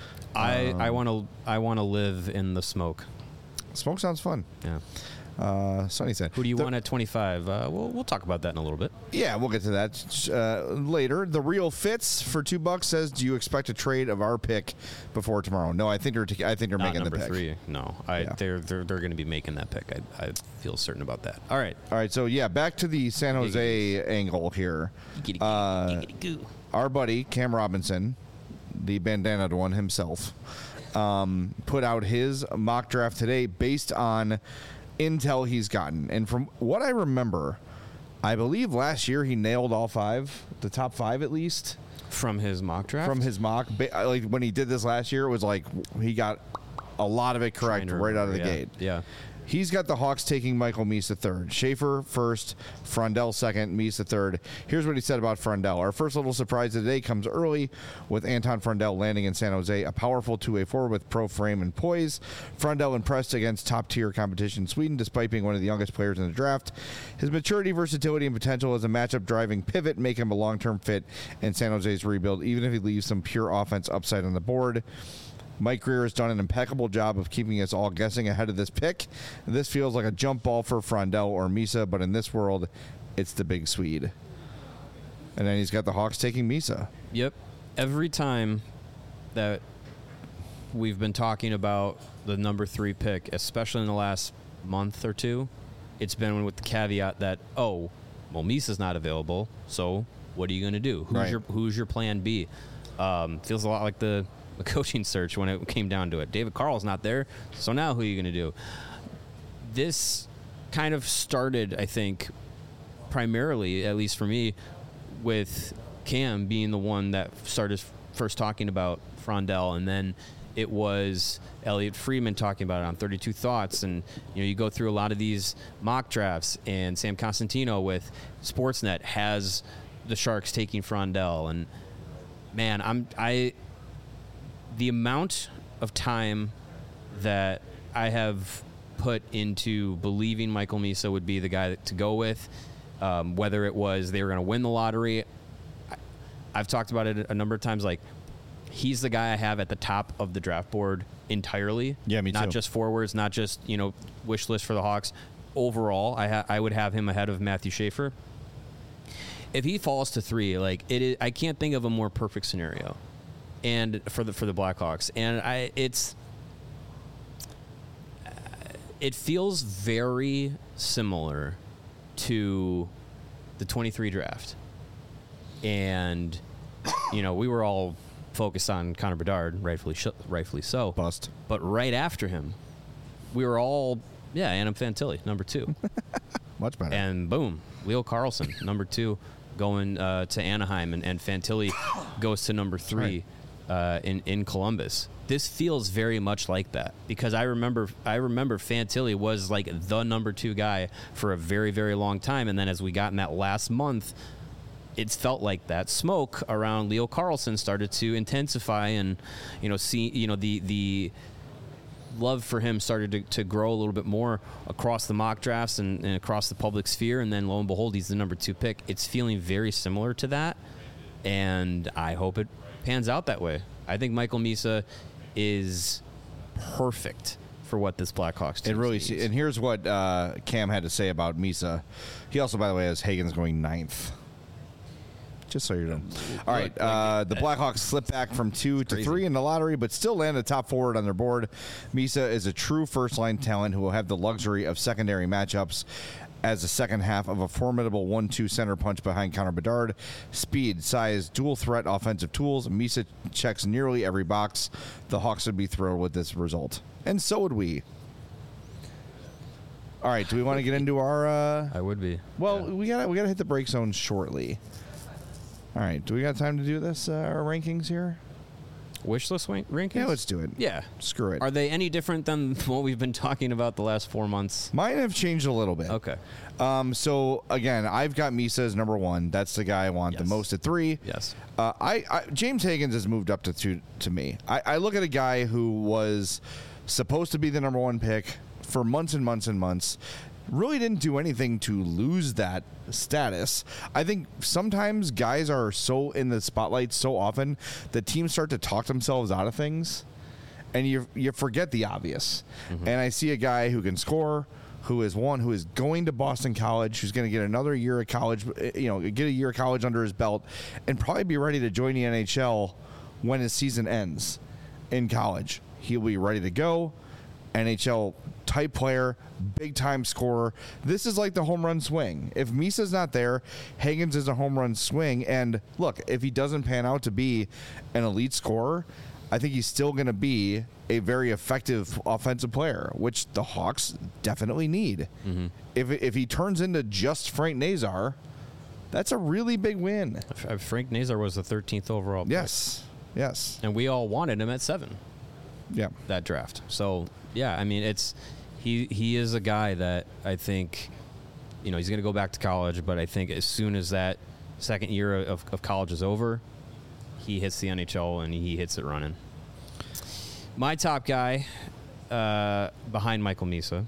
I Um, I want to I want to live in the smoke. Smoke sounds fun. Yeah. Uh, Sonny said, Who do you the- want at twenty-five? Uh, we'll we'll talk about that in a little bit. Yeah, we'll get to that uh, later. The Real Fitz for two bucks says, "Do you expect a trade of our pick before tomorrow?" No, I think they're. T- I think they're Not making the number pick. three. No, I Yeah. they're they're they're going to be making that pick. I I feel certain about that. All right. All right, so yeah, back to the San Jose angle here. Uh, our buddy Cam Robinson, the bandanaed one himself, um, put out his mock draft today based on intel he's gotten, and from what I remember, I believe last year he nailed all five, the top five at least. From his mock draft? From his mock, ba- like when he did this last year, it was like he got a lot of it correct Trying to right out of the remember, yeah. gate. Yeah. He's got the Hawks taking Michael Misa third, Schaefer first, Frondell second, Misa third. Here's what he said about Frondell. Our first little surprise of the day comes early with Anton Frondell landing in San Jose, a powerful two-way forward with pro frame and poise. Frondell impressed against top-tier competition in Sweden despite being one of the youngest players in the draft. His maturity, versatility, and potential as a matchup-driving pivot make him a long-term fit in San Jose's rebuild, even if he leaves some pure offense upside on the board. Mike Greer has done an impeccable job of keeping us all guessing ahead of this pick. This feels like a jump ball for Frondell or Misa, but in this world, it's the big Swede. And then he's got the Hawks taking Misa. Yep. Every time that we've been talking about the number three pick, especially in the last month or two, it's been with the caveat that, oh, well, Misa's not available, so what are you going to do? Who's Right. your Who's your plan B? Um, feels a lot like the, the coaching search when it came down to it. David Carl's not there, so now who are you going to do? This kind of started, I think, primarily, at least for me, with Cam being the one that started first talking about Frondell, and then it was Elliot Friedman talking about it on thirty-two Thoughts, and you know you go through a lot of these mock drafts, and Sam Costantino with Sportsnet has the Sharks taking Frondell, and man, I'm I the amount of time that I have put into believing Michael Misa would be the guy to go with, um, whether it was they were going to win the lottery. I, I've talked about it a number of times. Like, he's the guy I have at the top of the draft board entirely. Yeah, me not too. just forwards, not just, you know, wish list for the Hawks. Overall, I ha- I would have him ahead of Matthew Schaefer. If he falls to three, like it is, I can't think of a more perfect scenario, and for the for the Blackhawks, and I it's it feels very similar to the twenty-three draft, and you know we were all focused on Connor Bedard, rightfully sh- rightfully so, Bust. but right after him, we were all yeah, Adam Fantilli, number two. Much better. And boom, Leo Carlson, number two, going uh, to Anaheim, and, and Fantilli goes to number three uh, in in Columbus. This feels very much like that because I remember I remember Fantilli was like the number two guy for a very very long time, and then as we got in that last month, it felt like that smoke around Leo Carlson started to intensify, and you know see you know the the. love for him started to, to grow a little bit more across the mock drafts and, and across the public sphere, and then lo and behold, he's the number two pick. It's feeling very similar to that, and I hope it pans out that way. I think Michael Misa is perfect for what this Blackhawks team It really, needs. and here's what uh, Cam had to say about Misa. He also, by the way, has Hagen's going ninth. Just so you're done. All right, uh, the Blackhawks slip back from two to crazy. three in the lottery, but still land a top forward on their board. Misa is a true first-line talent who will have the luxury of secondary matchups as the second half of a formidable one two center punch behind Connor Bedard. Speed, size, dual threat offensive tools. Misa checks nearly every box. The Hawks would be thrilled with this result, and so would we. All right, do we want to get into our? Uh, I would be. well, Yeah. we gotta we gotta hit the break zone shortly. All right, do we got time to do this? Uh, our rankings here. Wish list rank- rankings? Yeah, let's do it. Yeah. Screw it. Are they any different than what we've been talking about the last four months? Mine have changed a little bit. Okay. Um, so again, I've got Misa as number one. That's the guy I want Yes. the most at three. Yes. Uh, I, I James Higgins has moved up to two to me. I, I look at a guy who was supposed to be the number one pick for months and months and months. Really didn't do anything to lose that status. I think sometimes guys are so in the spotlight so often that teams start to talk themselves out of things, and you you forget the obvious. Mm-hmm. And I see a guy who can score, who is one who is going to Boston College, who's going to get another year of college, you know, get a year of college under his belt, and probably be ready to join the N H L when his season ends in college. He'll be ready to go. N H L type player, big time scorer. This is like the home run swing. If Misa's not there, Higgins is a home run swing. And look, if he doesn't pan out to be an elite scorer, I think he's still going to be a very effective offensive player, which the Hawks definitely need. Mm-hmm. If if he turns into just Frank Nazar, that's a really big win. Frank Nazar was the thirteenth overall pick. Yes, yes. And we all wanted him at seven. Yeah. That draft. So, yeah, I mean, it's he he is a guy that I think, you know, he's going to go back to college, but I think as soon as that second year of, of college is over, he hits the N H L and he hits it running. My top guy uh, behind Michael Misa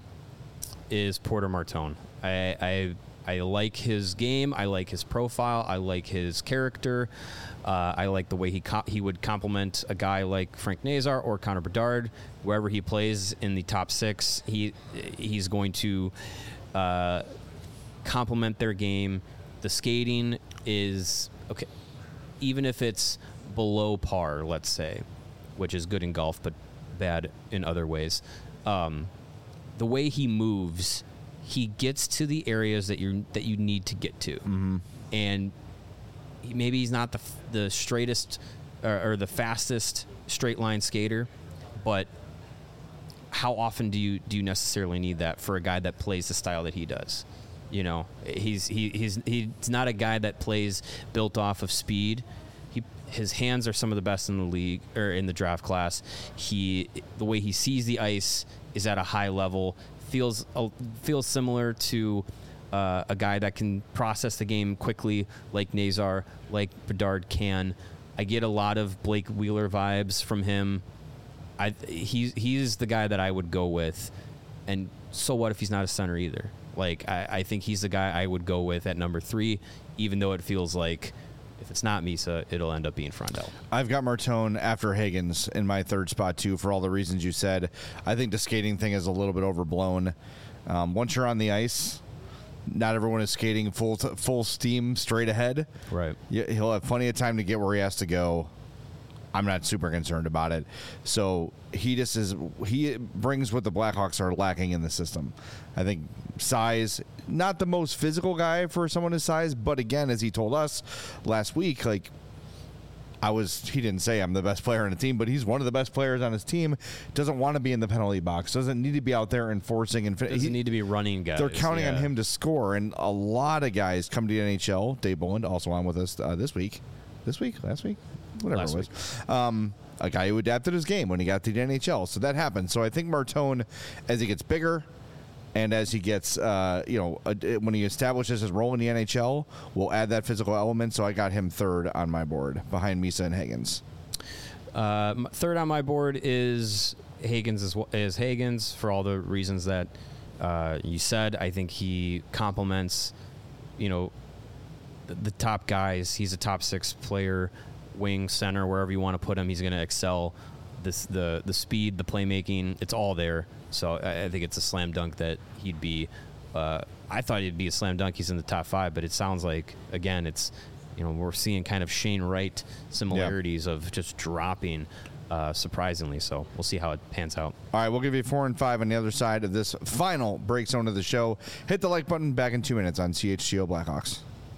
is Porter Martone. I, I I like his game. I like his profile. I like his character. Uh, I like the way he co- he would complement a guy like Frank Nazar or Connor Bedard. Wherever he plays in the top six, he he's going to uh, complement their game. The skating is okay, even if it's below par, let's say, which is good in golf but bad in other ways. Um, the way he moves, he gets to the areas that you that you need to get to, mm-hmm. and he, maybe he's not the the straightest or, or the fastest straight line skater, but how often do you do you necessarily need that for a guy that plays the style that he does? You know, he's he he's he's not a guy that plays built off of speed. He his hands are some of the best in the league or in the draft class. He the way he sees the ice is at a high level. Feels uh, feels similar to uh, a guy that can process the game quickly, like Nazar, like Bedard can. I get a lot of Blake Wheeler vibes from him. I he's he's the guy that I would go with, and so what if he's not a center either? Like I, I think he's the guy I would go with at number three, even though it feels like if it's not Misa, it'll end up being Frondell. I've got Martone after Higgins in my third spot, too, for all the reasons you said. I think the skating thing is a little bit overblown. Um, once you're on the ice, not everyone is skating full t- full steam straight ahead. Right. Yeah, he'll have plenty of time to get where he has to go. I'm not super concerned about it. So he just is, he brings what the Blackhawks are lacking in the system. I think size, not the most physical guy for someone his size, but again, as he told us last week, like, I was, he didn't say I'm the best player on the team, but he's one of the best players on his team. Doesn't want to be in the penalty box. Doesn't need to be out there enforcing. And Doesn't he, need to be running guys. They're counting yeah. on him to score. And a lot of guys come to the N H L. Dave Boland, also on with us uh, this week. This week? Last week? Whatever Last it was. Um, a guy who adapted his game when he got to the N H L. So that happened. So I think Martone, as he gets bigger and as he gets, uh, you know, uh, when he establishes his role in the N H L, will add that physical element. So I got him third on my board behind Misa and Higgins. Uh, third on my board is Higgins is, is Higgins for all the reasons that uh, you said. I think he complements, you know, the, the top guys. He's a top six player, wing, center, wherever you want to put him. He's going to excel. This the the speed, the playmaking, it's all there. So I, I think it's a slam dunk that he'd be. Uh, I thought he'd be a slam dunk. He's in the top five, but it sounds like again, it's you know we're seeing kind of Shane Wright similarities yeah. of just dropping. Uh, surprisingly, so we'll see how it pans out. All right, we'll give you four and five on the other side of this final break zone of the show. Hit the like button. Back in two minutes on C H G O Blackhawks.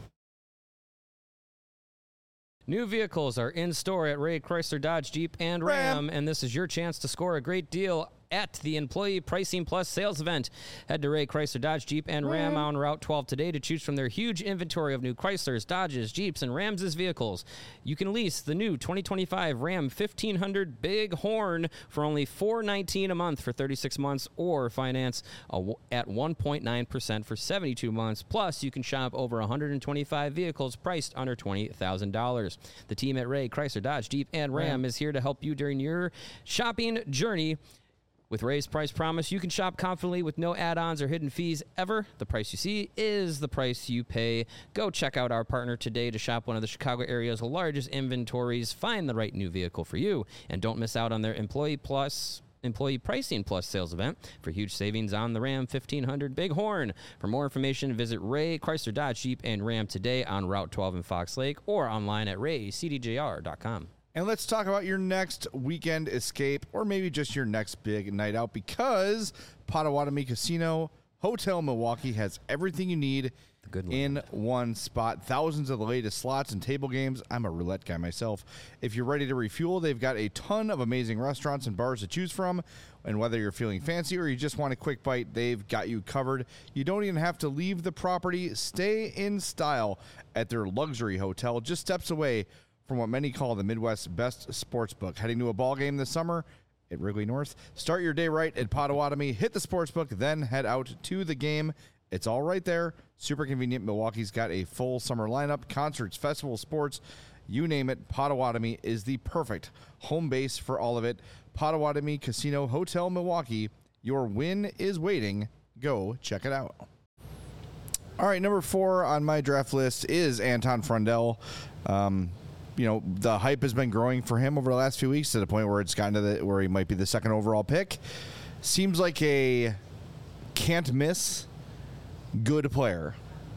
New vehicles are in store at Ray Chrysler Dodge Jeep and Ram, Ram, and this is your chance to score a great deal at the Employee Pricing Plus sales event. Head to Ray Chrysler Dodge Jeep and Ram on Route twelve today to choose from their huge inventory of new Chryslers, Dodges, Jeeps, and Rams' vehicles. You can lease the new twenty twenty-five Ram fifteen hundred Big Horn for only four hundred nineteen dollars a month for thirty-six months, or finance at one point nine percent for seventy-two months. Plus, you can shop over one hundred twenty-five vehicles priced under twenty thousand dollars. The team at Ray Chrysler Dodge Jeep and Ram Ram. is here to help you during your shopping journey. With Ray's Price Promise, you can shop confidently with no add-ons or hidden fees ever. The price you see is the price you pay. Go check out our partner today to shop one of the Chicago area's largest inventories. Find the right new vehicle for you, and don't miss out on their Employee Plus Employee Pricing Plus sales event for huge savings on the Ram fifteen hundred Bighorn. For more information, visit Ray Chrysler Dodge Jeep and Ram today on Route twelve in Fox Lake or online at ray c d j r dot com. And let's talk about your next weekend escape, or maybe just your next big night out, because Potawatomi Casino Hotel Milwaukee has everything you need in one spot. Thousands of the latest slots and table games. I'm a roulette guy myself. If you're ready to refuel, they've got a ton of amazing restaurants and bars to choose from. And whether you're feeling fancy or you just want a quick bite, they've got you covered. You don't even have to leave the property. Stay in style at their luxury hotel, just steps away from what many call the Midwest's best sports book. Heading to a ball game this summer at Wrigley North? Start your day right at Potawatomi, hit the sports book, then head out to the game. It's all right there. Super convenient. Milwaukee's got a full summer lineup, concerts, festivals, sports, you name it. Potawatomi is the perfect home base for all of it. Potawatomi Casino Hotel Milwaukee. Your win is waiting. Go check it out. All right, number four on my draft list is Anton Frundell. Um, you know, the hype has been growing for him over the last few weeks to the point where it's gotten to the where he might be the second overall pick. Seems like a can't miss good player.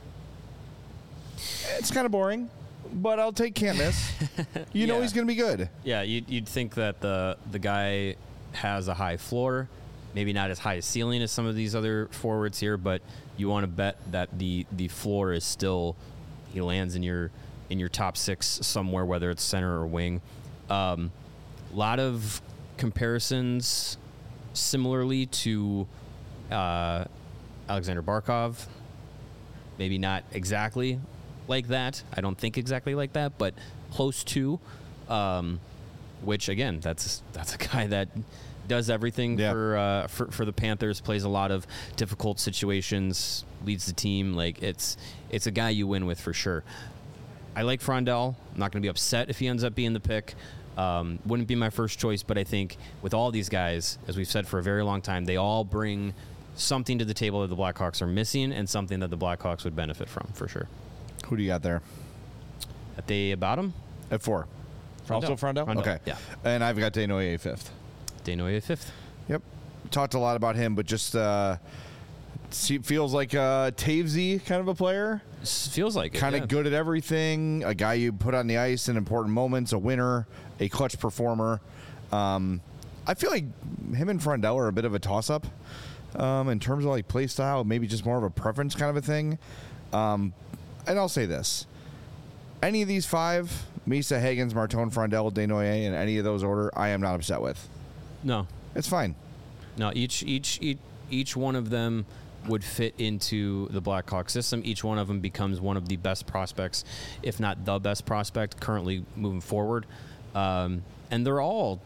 It's kind of boring, but I'll take can't miss. You yeah. know he's going to be good. Yeah, you'd, you'd think that the the guy has a high floor, maybe not as high a ceiling as some of these other forwards here, but you want to bet that the the floor is still, he lands in your in your top six somewhere, whether it's center or wing. A um, lot of comparisons similarly to uh, Alexander Barkov. Maybe not exactly like that. I don't think exactly like that, but close to. Um, which again, that's that's a guy that does everything yeah. for, uh, for for the Panthers. Plays a lot of difficult situations. Leads the team. Like it's it's a guy you win with for sure. I like Frundell. I'm not going to be upset if he ends up being the pick. Um, wouldn't be my first choice, but I think with all these guys, as we've said for a very long time, they all bring something to the table that the Blackhawks are missing and something that the Blackhawks would benefit from, for sure. Who do you got there? At the bottom? At four. Frundell. Also Frundell? Frundell? Okay. Yeah. And I've got Desnoyers fifth. Desnoyers fifth. Yep. Talked a lot about him, but just uh, feels like a Tavesy kind of a player. Feels like it, Kind of yeah. good at everything. A guy you put on the ice in important moments. A winner. A clutch performer. Um, I feel like him and Frundell are a bit of a toss-up um, in terms of like play style. Maybe just more of a preference kind of a thing. Um, and I'll say this. Any of these five, Misa, Higgins, Martone, Frundell, Desnoyers, in any of those order, I am not upset with. No. It's fine. No, each each each, each one of them would fit into the Blackhawk system. Each one of them becomes one of the best prospects, if not the best prospect currently moving forward. Um, and they're all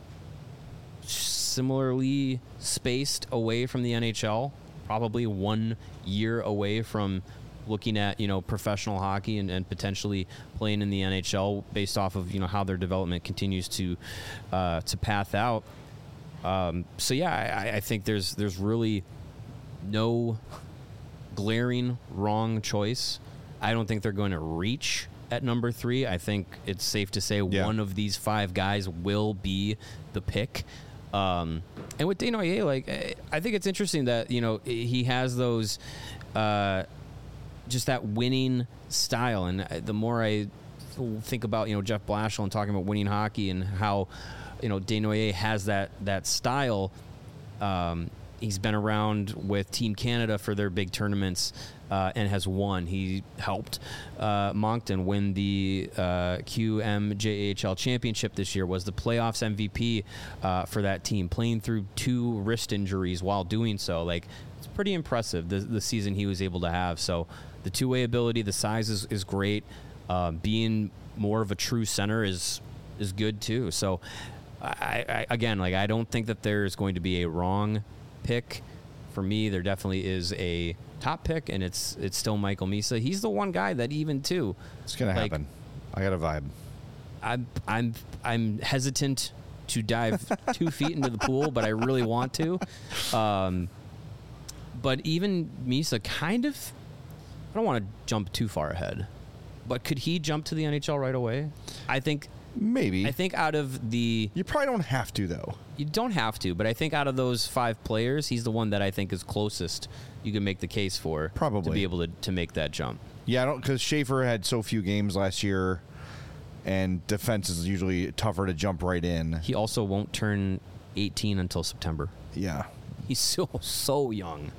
similarly spaced away from the N H L, probably one year away from looking at, you know, professional hockey and, and potentially playing in the N H L based off of, you know, how their development continues to uh, to path out. Um, so yeah, I, I think there's there's really no glaring wrong choice. I don't think they're going to reach at number three. I think it's safe to say yeah. one of these five guys will be the pick. Um, and with Desnoyers, like I think it's interesting that, you know, he has those uh, just that winning style. And the more I think about, you know, Jeff Blashill and talking about winning hockey and how, you know, Desnoyers has that that style. Um, he's been around with Team Canada for their big tournaments uh, and has won. He helped uh, Moncton win the uh, Q M J H L championship this year, was the playoffs M V P uh, for that team, playing through two wrist injuries while doing so. Like, it's pretty impressive, the, the season he was able to have. So the two-way ability, the size is, is great. Uh, being more of a true center is is good too. So I, I again, like, I don't think that there's going to be a wrong pick. For me, there definitely is a top pick, and it's it's still Michael Misa. He's the one guy that even too. It's gonna like, happen. I got a vibe. I'm I'm I'm hesitant to dive two feet into the pool, but I really want to. Um, but even Misa kind of, I don't want to jump too far ahead, but could he jump to the N H L right away? I think. Maybe. I think out of the... You probably don't have to, though. You don't have to, but I think out of those five players, he's the one that I think is closest you can make the case for. Probably. To be able to, to make that jump. Yeah, I don't, because Schaefer had so few games last year, and defense is usually tougher to jump right in. He also won't turn eighteen until September. Yeah. He's still so young.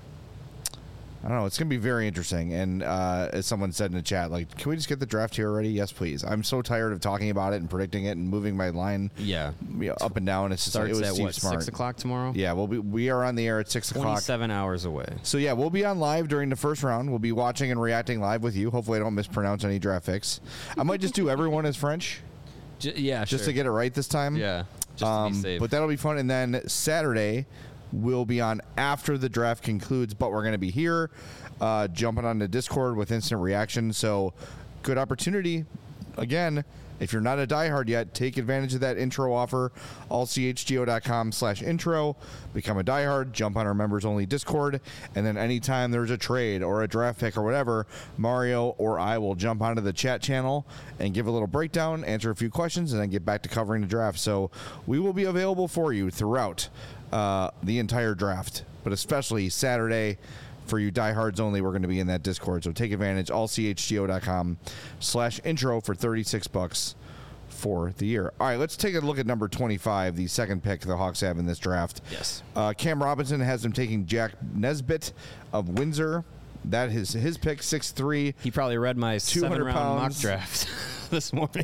I don't know. It's going to be very interesting. And uh, as someone said in the chat, like, can we just get the draft here already? Yes, please. I'm so tired of talking about it and predicting it and moving my line yeah. you know, up and down. It's just Starts it was at Steve what, Smart. six o'clock tomorrow? Yeah, we'll be, we are on the air at six o'clock. twenty-seven hours away. So, yeah, we'll be on live during the first round. We'll be watching and reacting live with you. Hopefully I don't mispronounce any draft picks. I might just do everyone as French. J- yeah, Just sure. to get it right this time. Yeah, just um, to be safe. But that'll be fun. And then Saturday, we'll be on after the draft concludes, but we're going to be here uh, jumping on the Discord with instant reaction. So good opportunity. Again, if you're not a diehard yet, take advantage of that intro offer. allchgo.com slash intro. Become a diehard. Jump on our members-only Discord. And then anytime there's a trade or a draft pick or whatever, Mario or I will jump onto the chat channel and give a little breakdown, answer a few questions, and then get back to covering the draft. So we will be available for you throughout uh, the entire draft, but especially Saturday. For you diehards only, we're going to be in that Discord. So take advantage. allchgo.com slash intro for thirty-six bucks for the year. All right, let's take a look at number twenty-five, the second pick the Hawks have in this draft. Yes. Uh, Cam Robinson has them taking Jack Nesbitt of Windsor. That is his pick, six three. He probably read my seven-round mock pounds. draft this morning.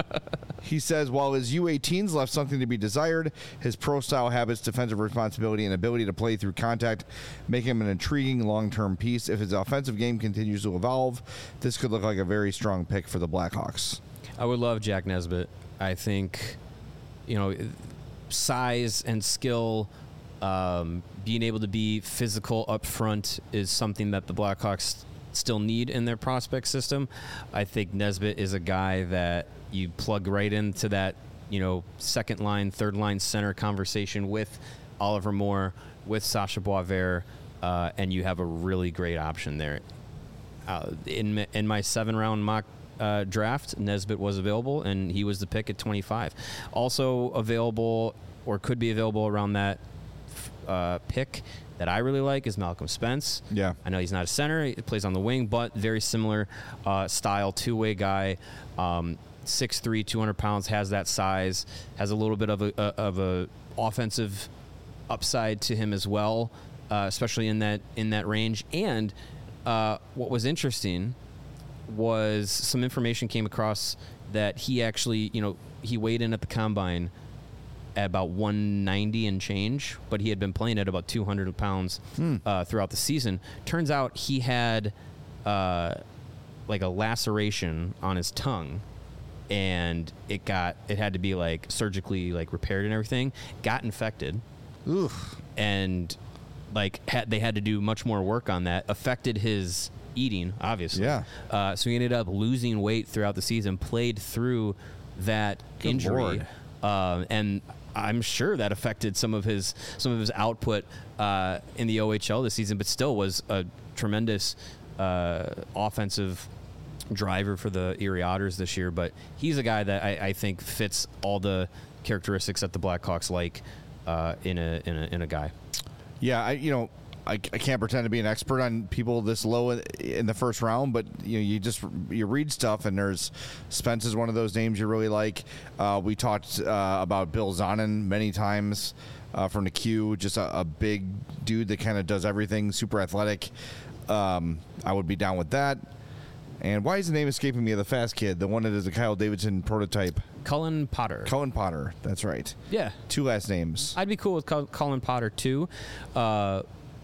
He says, while his U eighteens left something to be desired, his pro-style habits, defensive responsibility, and ability to play through contact make him an intriguing long-term piece. If his offensive game continues to evolve, this could look like a very strong pick for the Blackhawks. I would love Jack Nesbitt. I think, you know, size and skill, um, being able to be physical up front is something that the Blackhawks still need in their prospect system. I think Nesbitt is a guy that you plug right into that, you know, second line, third line center conversation with Oliver Moore, with Sasha Boisvert, uh, and you have a really great option there. Uh, in in my seven round mock uh, draft, Nesbitt was available, and he was the pick at twenty-five. Also available, or could be available around that uh, pick that I really like is Malcolm Spence. Yeah. I know he's not a center. He plays on the wing, but very similar uh, style, two-way guy. Um, six three, two hundred pounds, has that size, has a little bit of a, a of a offensive upside to him as well, uh, especially in that in that range. And uh, what was interesting was some information came across that he actually, you know, he weighed in at the combine at about one ninety and change, but he had been playing at about two hundred pounds hmm. uh, throughout the season. Turns out he had uh, like a laceration on his tongue, and it got it had to be like surgically like repaired and everything. Got infected, Oof. and like had, they had to do much more work on that. Affected his eating, obviously. Yeah. Uh, so he ended up losing weight throughout the season. Played through that Good injury, Lord. Uh, and I'm sure that affected some of his some of his output uh, in the O H L this season, but still was a tremendous uh, offensive driver for the Erie Otters this year. But he's a guy that I, I think fits all the characteristics that the Blackhawks like uh, in a in a in a guy. Yeah, I you know I, I can't pretend to be an expert on people this low in, in the first round, but you know you just you read stuff, and there's Spence is one of those names you really like. Uh, we talked uh, about Bill Zonin many times uh, from the Q, just a, a big dude that kind of does everything, super athletic. Um, I would be down with that. And why is the name escaping me of the fast kid, the one that is a Kyle Davidson prototype? Cullen Potter. Cullen Potter, that's right. Yeah. Two last names. I'd be cool with Cul- Cullen Potter, too. Uh,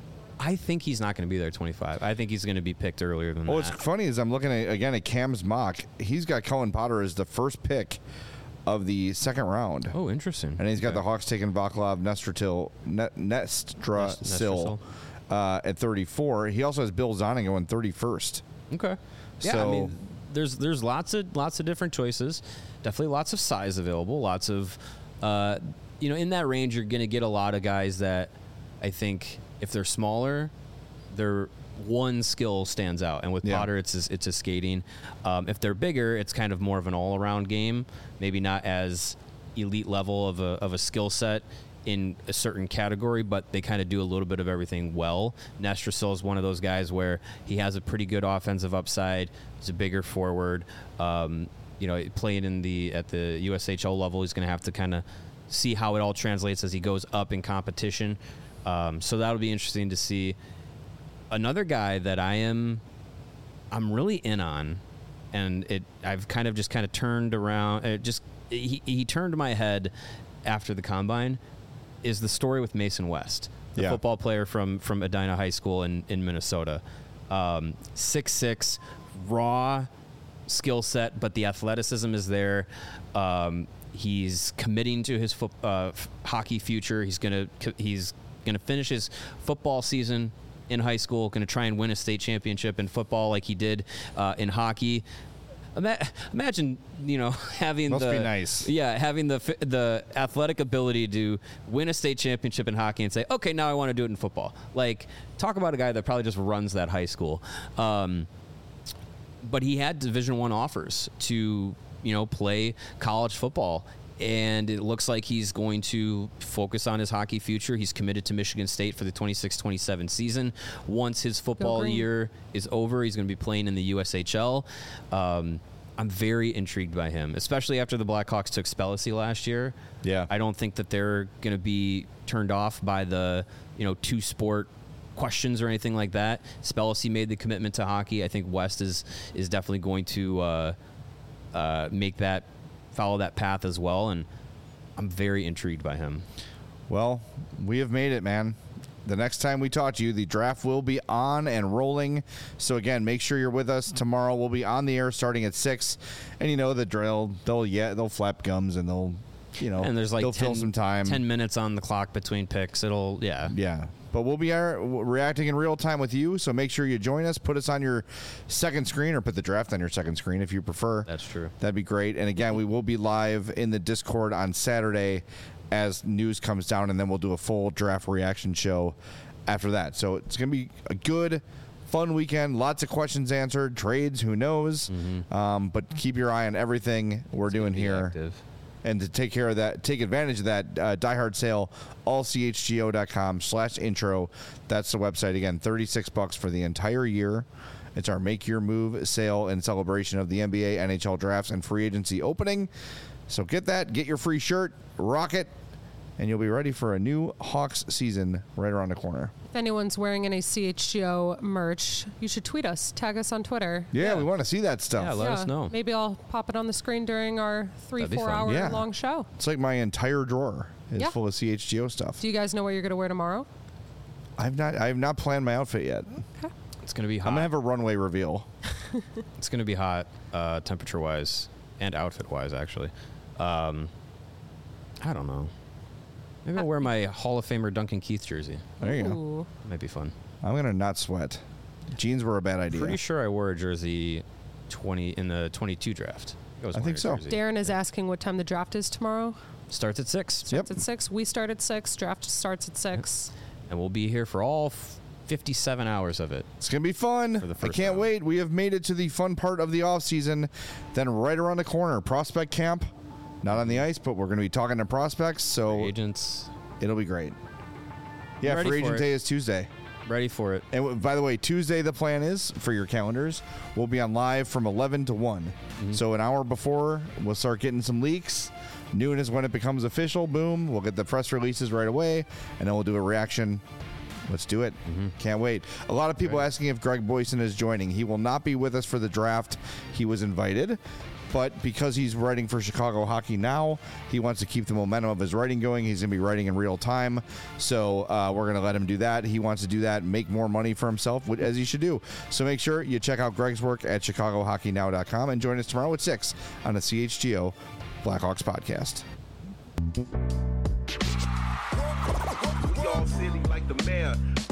I think he's not going to be there at twenty-five. I think he's going to be picked earlier than Well, that. what's funny is I'm looking at, again, at Cam's mock. He's got Cullen Potter as the first pick of the second round. Oh, interesting. And he's got Okay. the Hawks taking Vaclav Nestratil, Net, Nestra Nest- Sil uh, at thirty-four. He also has Bill Zonin going thirty-first. Okay. Yeah, So- I mean, there's there's lots of lots of different choices. Definitely lots of size available. Lots of, uh, you know, in that range, you're going to get a lot of guys that I think if they're smaller, their one skill stands out. And with Yeah. Potter, it's his, it's his skating. Um, if they're bigger, it's kind of more of an all around game. Maybe not as elite level of a of a skill set in a certain category, but they kind of do a little bit of everything well. Nestrasil is one of those guys where he has a pretty good offensive upside. He's a bigger forward. Um, you know, playing in the at the U S H L level, he's going to have to kind of see how it all translates as he goes up in competition. Um, so that'll be interesting to see. Another guy that I am, I'm really in on, and it I've kind of just kind of turned around. It just he he turned my head after the combine. Is the story with Mason West, the Yeah. football player from from Edina High School in in Minnesota, um, six six, raw skill set, but the athleticism is there. Um, he's committing to his fo- uh, f- hockey future. He's gonna he's gonna finish his football season in high school. Going to try and win a state championship in football like he did uh, in hockey. Ima- Imagine, you know, having Must the be nice. yeah, having the fi- the athletic ability to win a state championship in hockey and say, okay, now I want to do it in football. Like, talk about a guy that probably just runs that high school. Um, but he had Division One offers to, you know, play college football, and it looks like he's going to focus on his hockey future. He's committed to Michigan State for the twenty-six twenty-seven season. Once his football Green. year is over, he's going to be playing in the U S H L. Um, I'm very intrigued by him, especially after the Blackhawks took Spellacy last year. Yeah. I don't think that they're going to be turned off by the, you know, two sport questions or anything like that. Spellacy made the commitment to hockey. I think West is is definitely going to uh, uh, make that follow that path as well, and I'm very intrigued by him. Well, we have made it, man. The next time we talk to you, the draft will be on and rolling. So again, make sure you're with us tomorrow. We'll be on the air starting at six, and you know the drill. They'll yeah, they'll flap gums and they'll, you know, And there's like they'll ten, fill some time. ten minutes on the clock between picks. It'll yeah. Yeah. But we'll be uh, reacting in real time with you, so make sure you join us. Put us on your second screen, or put the draft on your second screen if you prefer. That's true. That'd be great. And again, we will be live in the Discord on Saturday as news comes down, and then we'll do a full draft reaction show after that. So it's going to be a good, fun weekend. Lots of questions answered, trades, who knows. Mm-hmm. Um, but keep your eye on everything we're It's gonna doing be here. active. And to take care of that, take advantage of that, uh, diehard sale, allchgo.com slash intro. That's the website. Again, thirty-six bucks for the entire year. It's our Make Your Move sale in celebration of the N B A, N H L drafts, and free agency opening. So get that, get your free shirt, rock it, and you'll be ready for a new Hawks season right around the corner. If anyone's wearing any C H G O merch, you should tweet us, tag us on Twitter. Yeah, Yeah. we want to see that stuff. Yeah, let us know. Maybe I'll pop it on the screen during our three, That'd be four fun. hour Yeah. long show. It's like my entire drawer is Yeah. full of C H G O stuff. Do you guys know what you're going to wear tomorrow? I've not I've not planned my outfit yet. It's gonna be hot. I'm gonna have a runway reveal. It's gonna be hot, uh, temperature wise and outfit wise, actually. Um, I don't know. Maybe I'll wear my Hall of Famer Duncan Keith jersey. There you go. Ooh. Might be fun. I'm gonna not sweat. Jeans were a bad idea. Pretty sure I wore a jersey twenty in the twenty-two draft. I, was I wearing think a so. jersey. Darren is asking what time the draft is tomorrow. Starts at six. Yep. It's at six. We start at six. Draft starts at six. And we'll be here for all f- fifty-seven hours of it. It's gonna be fun. For the I first can't round. wait. We have made it to the fun part of the off season. Then right around the corner, prospect camp. Not on the ice, but we're gonna be talking to prospects, so Agents, it'll be great. Yeah, ready free for agent it. day is Tuesday. ready for it. And w- by the way, Tuesday the plan is for your calendars. We'll be on live from eleven to one. Mm-hmm. So an hour before, we'll start getting some leaks. Noon is when it becomes official. Boom. We'll get the press releases right away, and then we'll do a reaction. Let's do it. Mm-hmm. Can't wait. A lot of people right. asking if Greg Boysen is joining. He will not be with us for the draft. He was invited. But because he's writing for Chicago Hockey Now, he wants to keep the momentum of his writing going. He's going to be writing in real time. So uh, we're going to let him do that. He wants to do that, make more money for himself, as he should do. So make sure you check out Greg's work at chicago hockey now dot com and join us tomorrow at six on the C H G O Blackhawks podcast. We all silly like the mayor.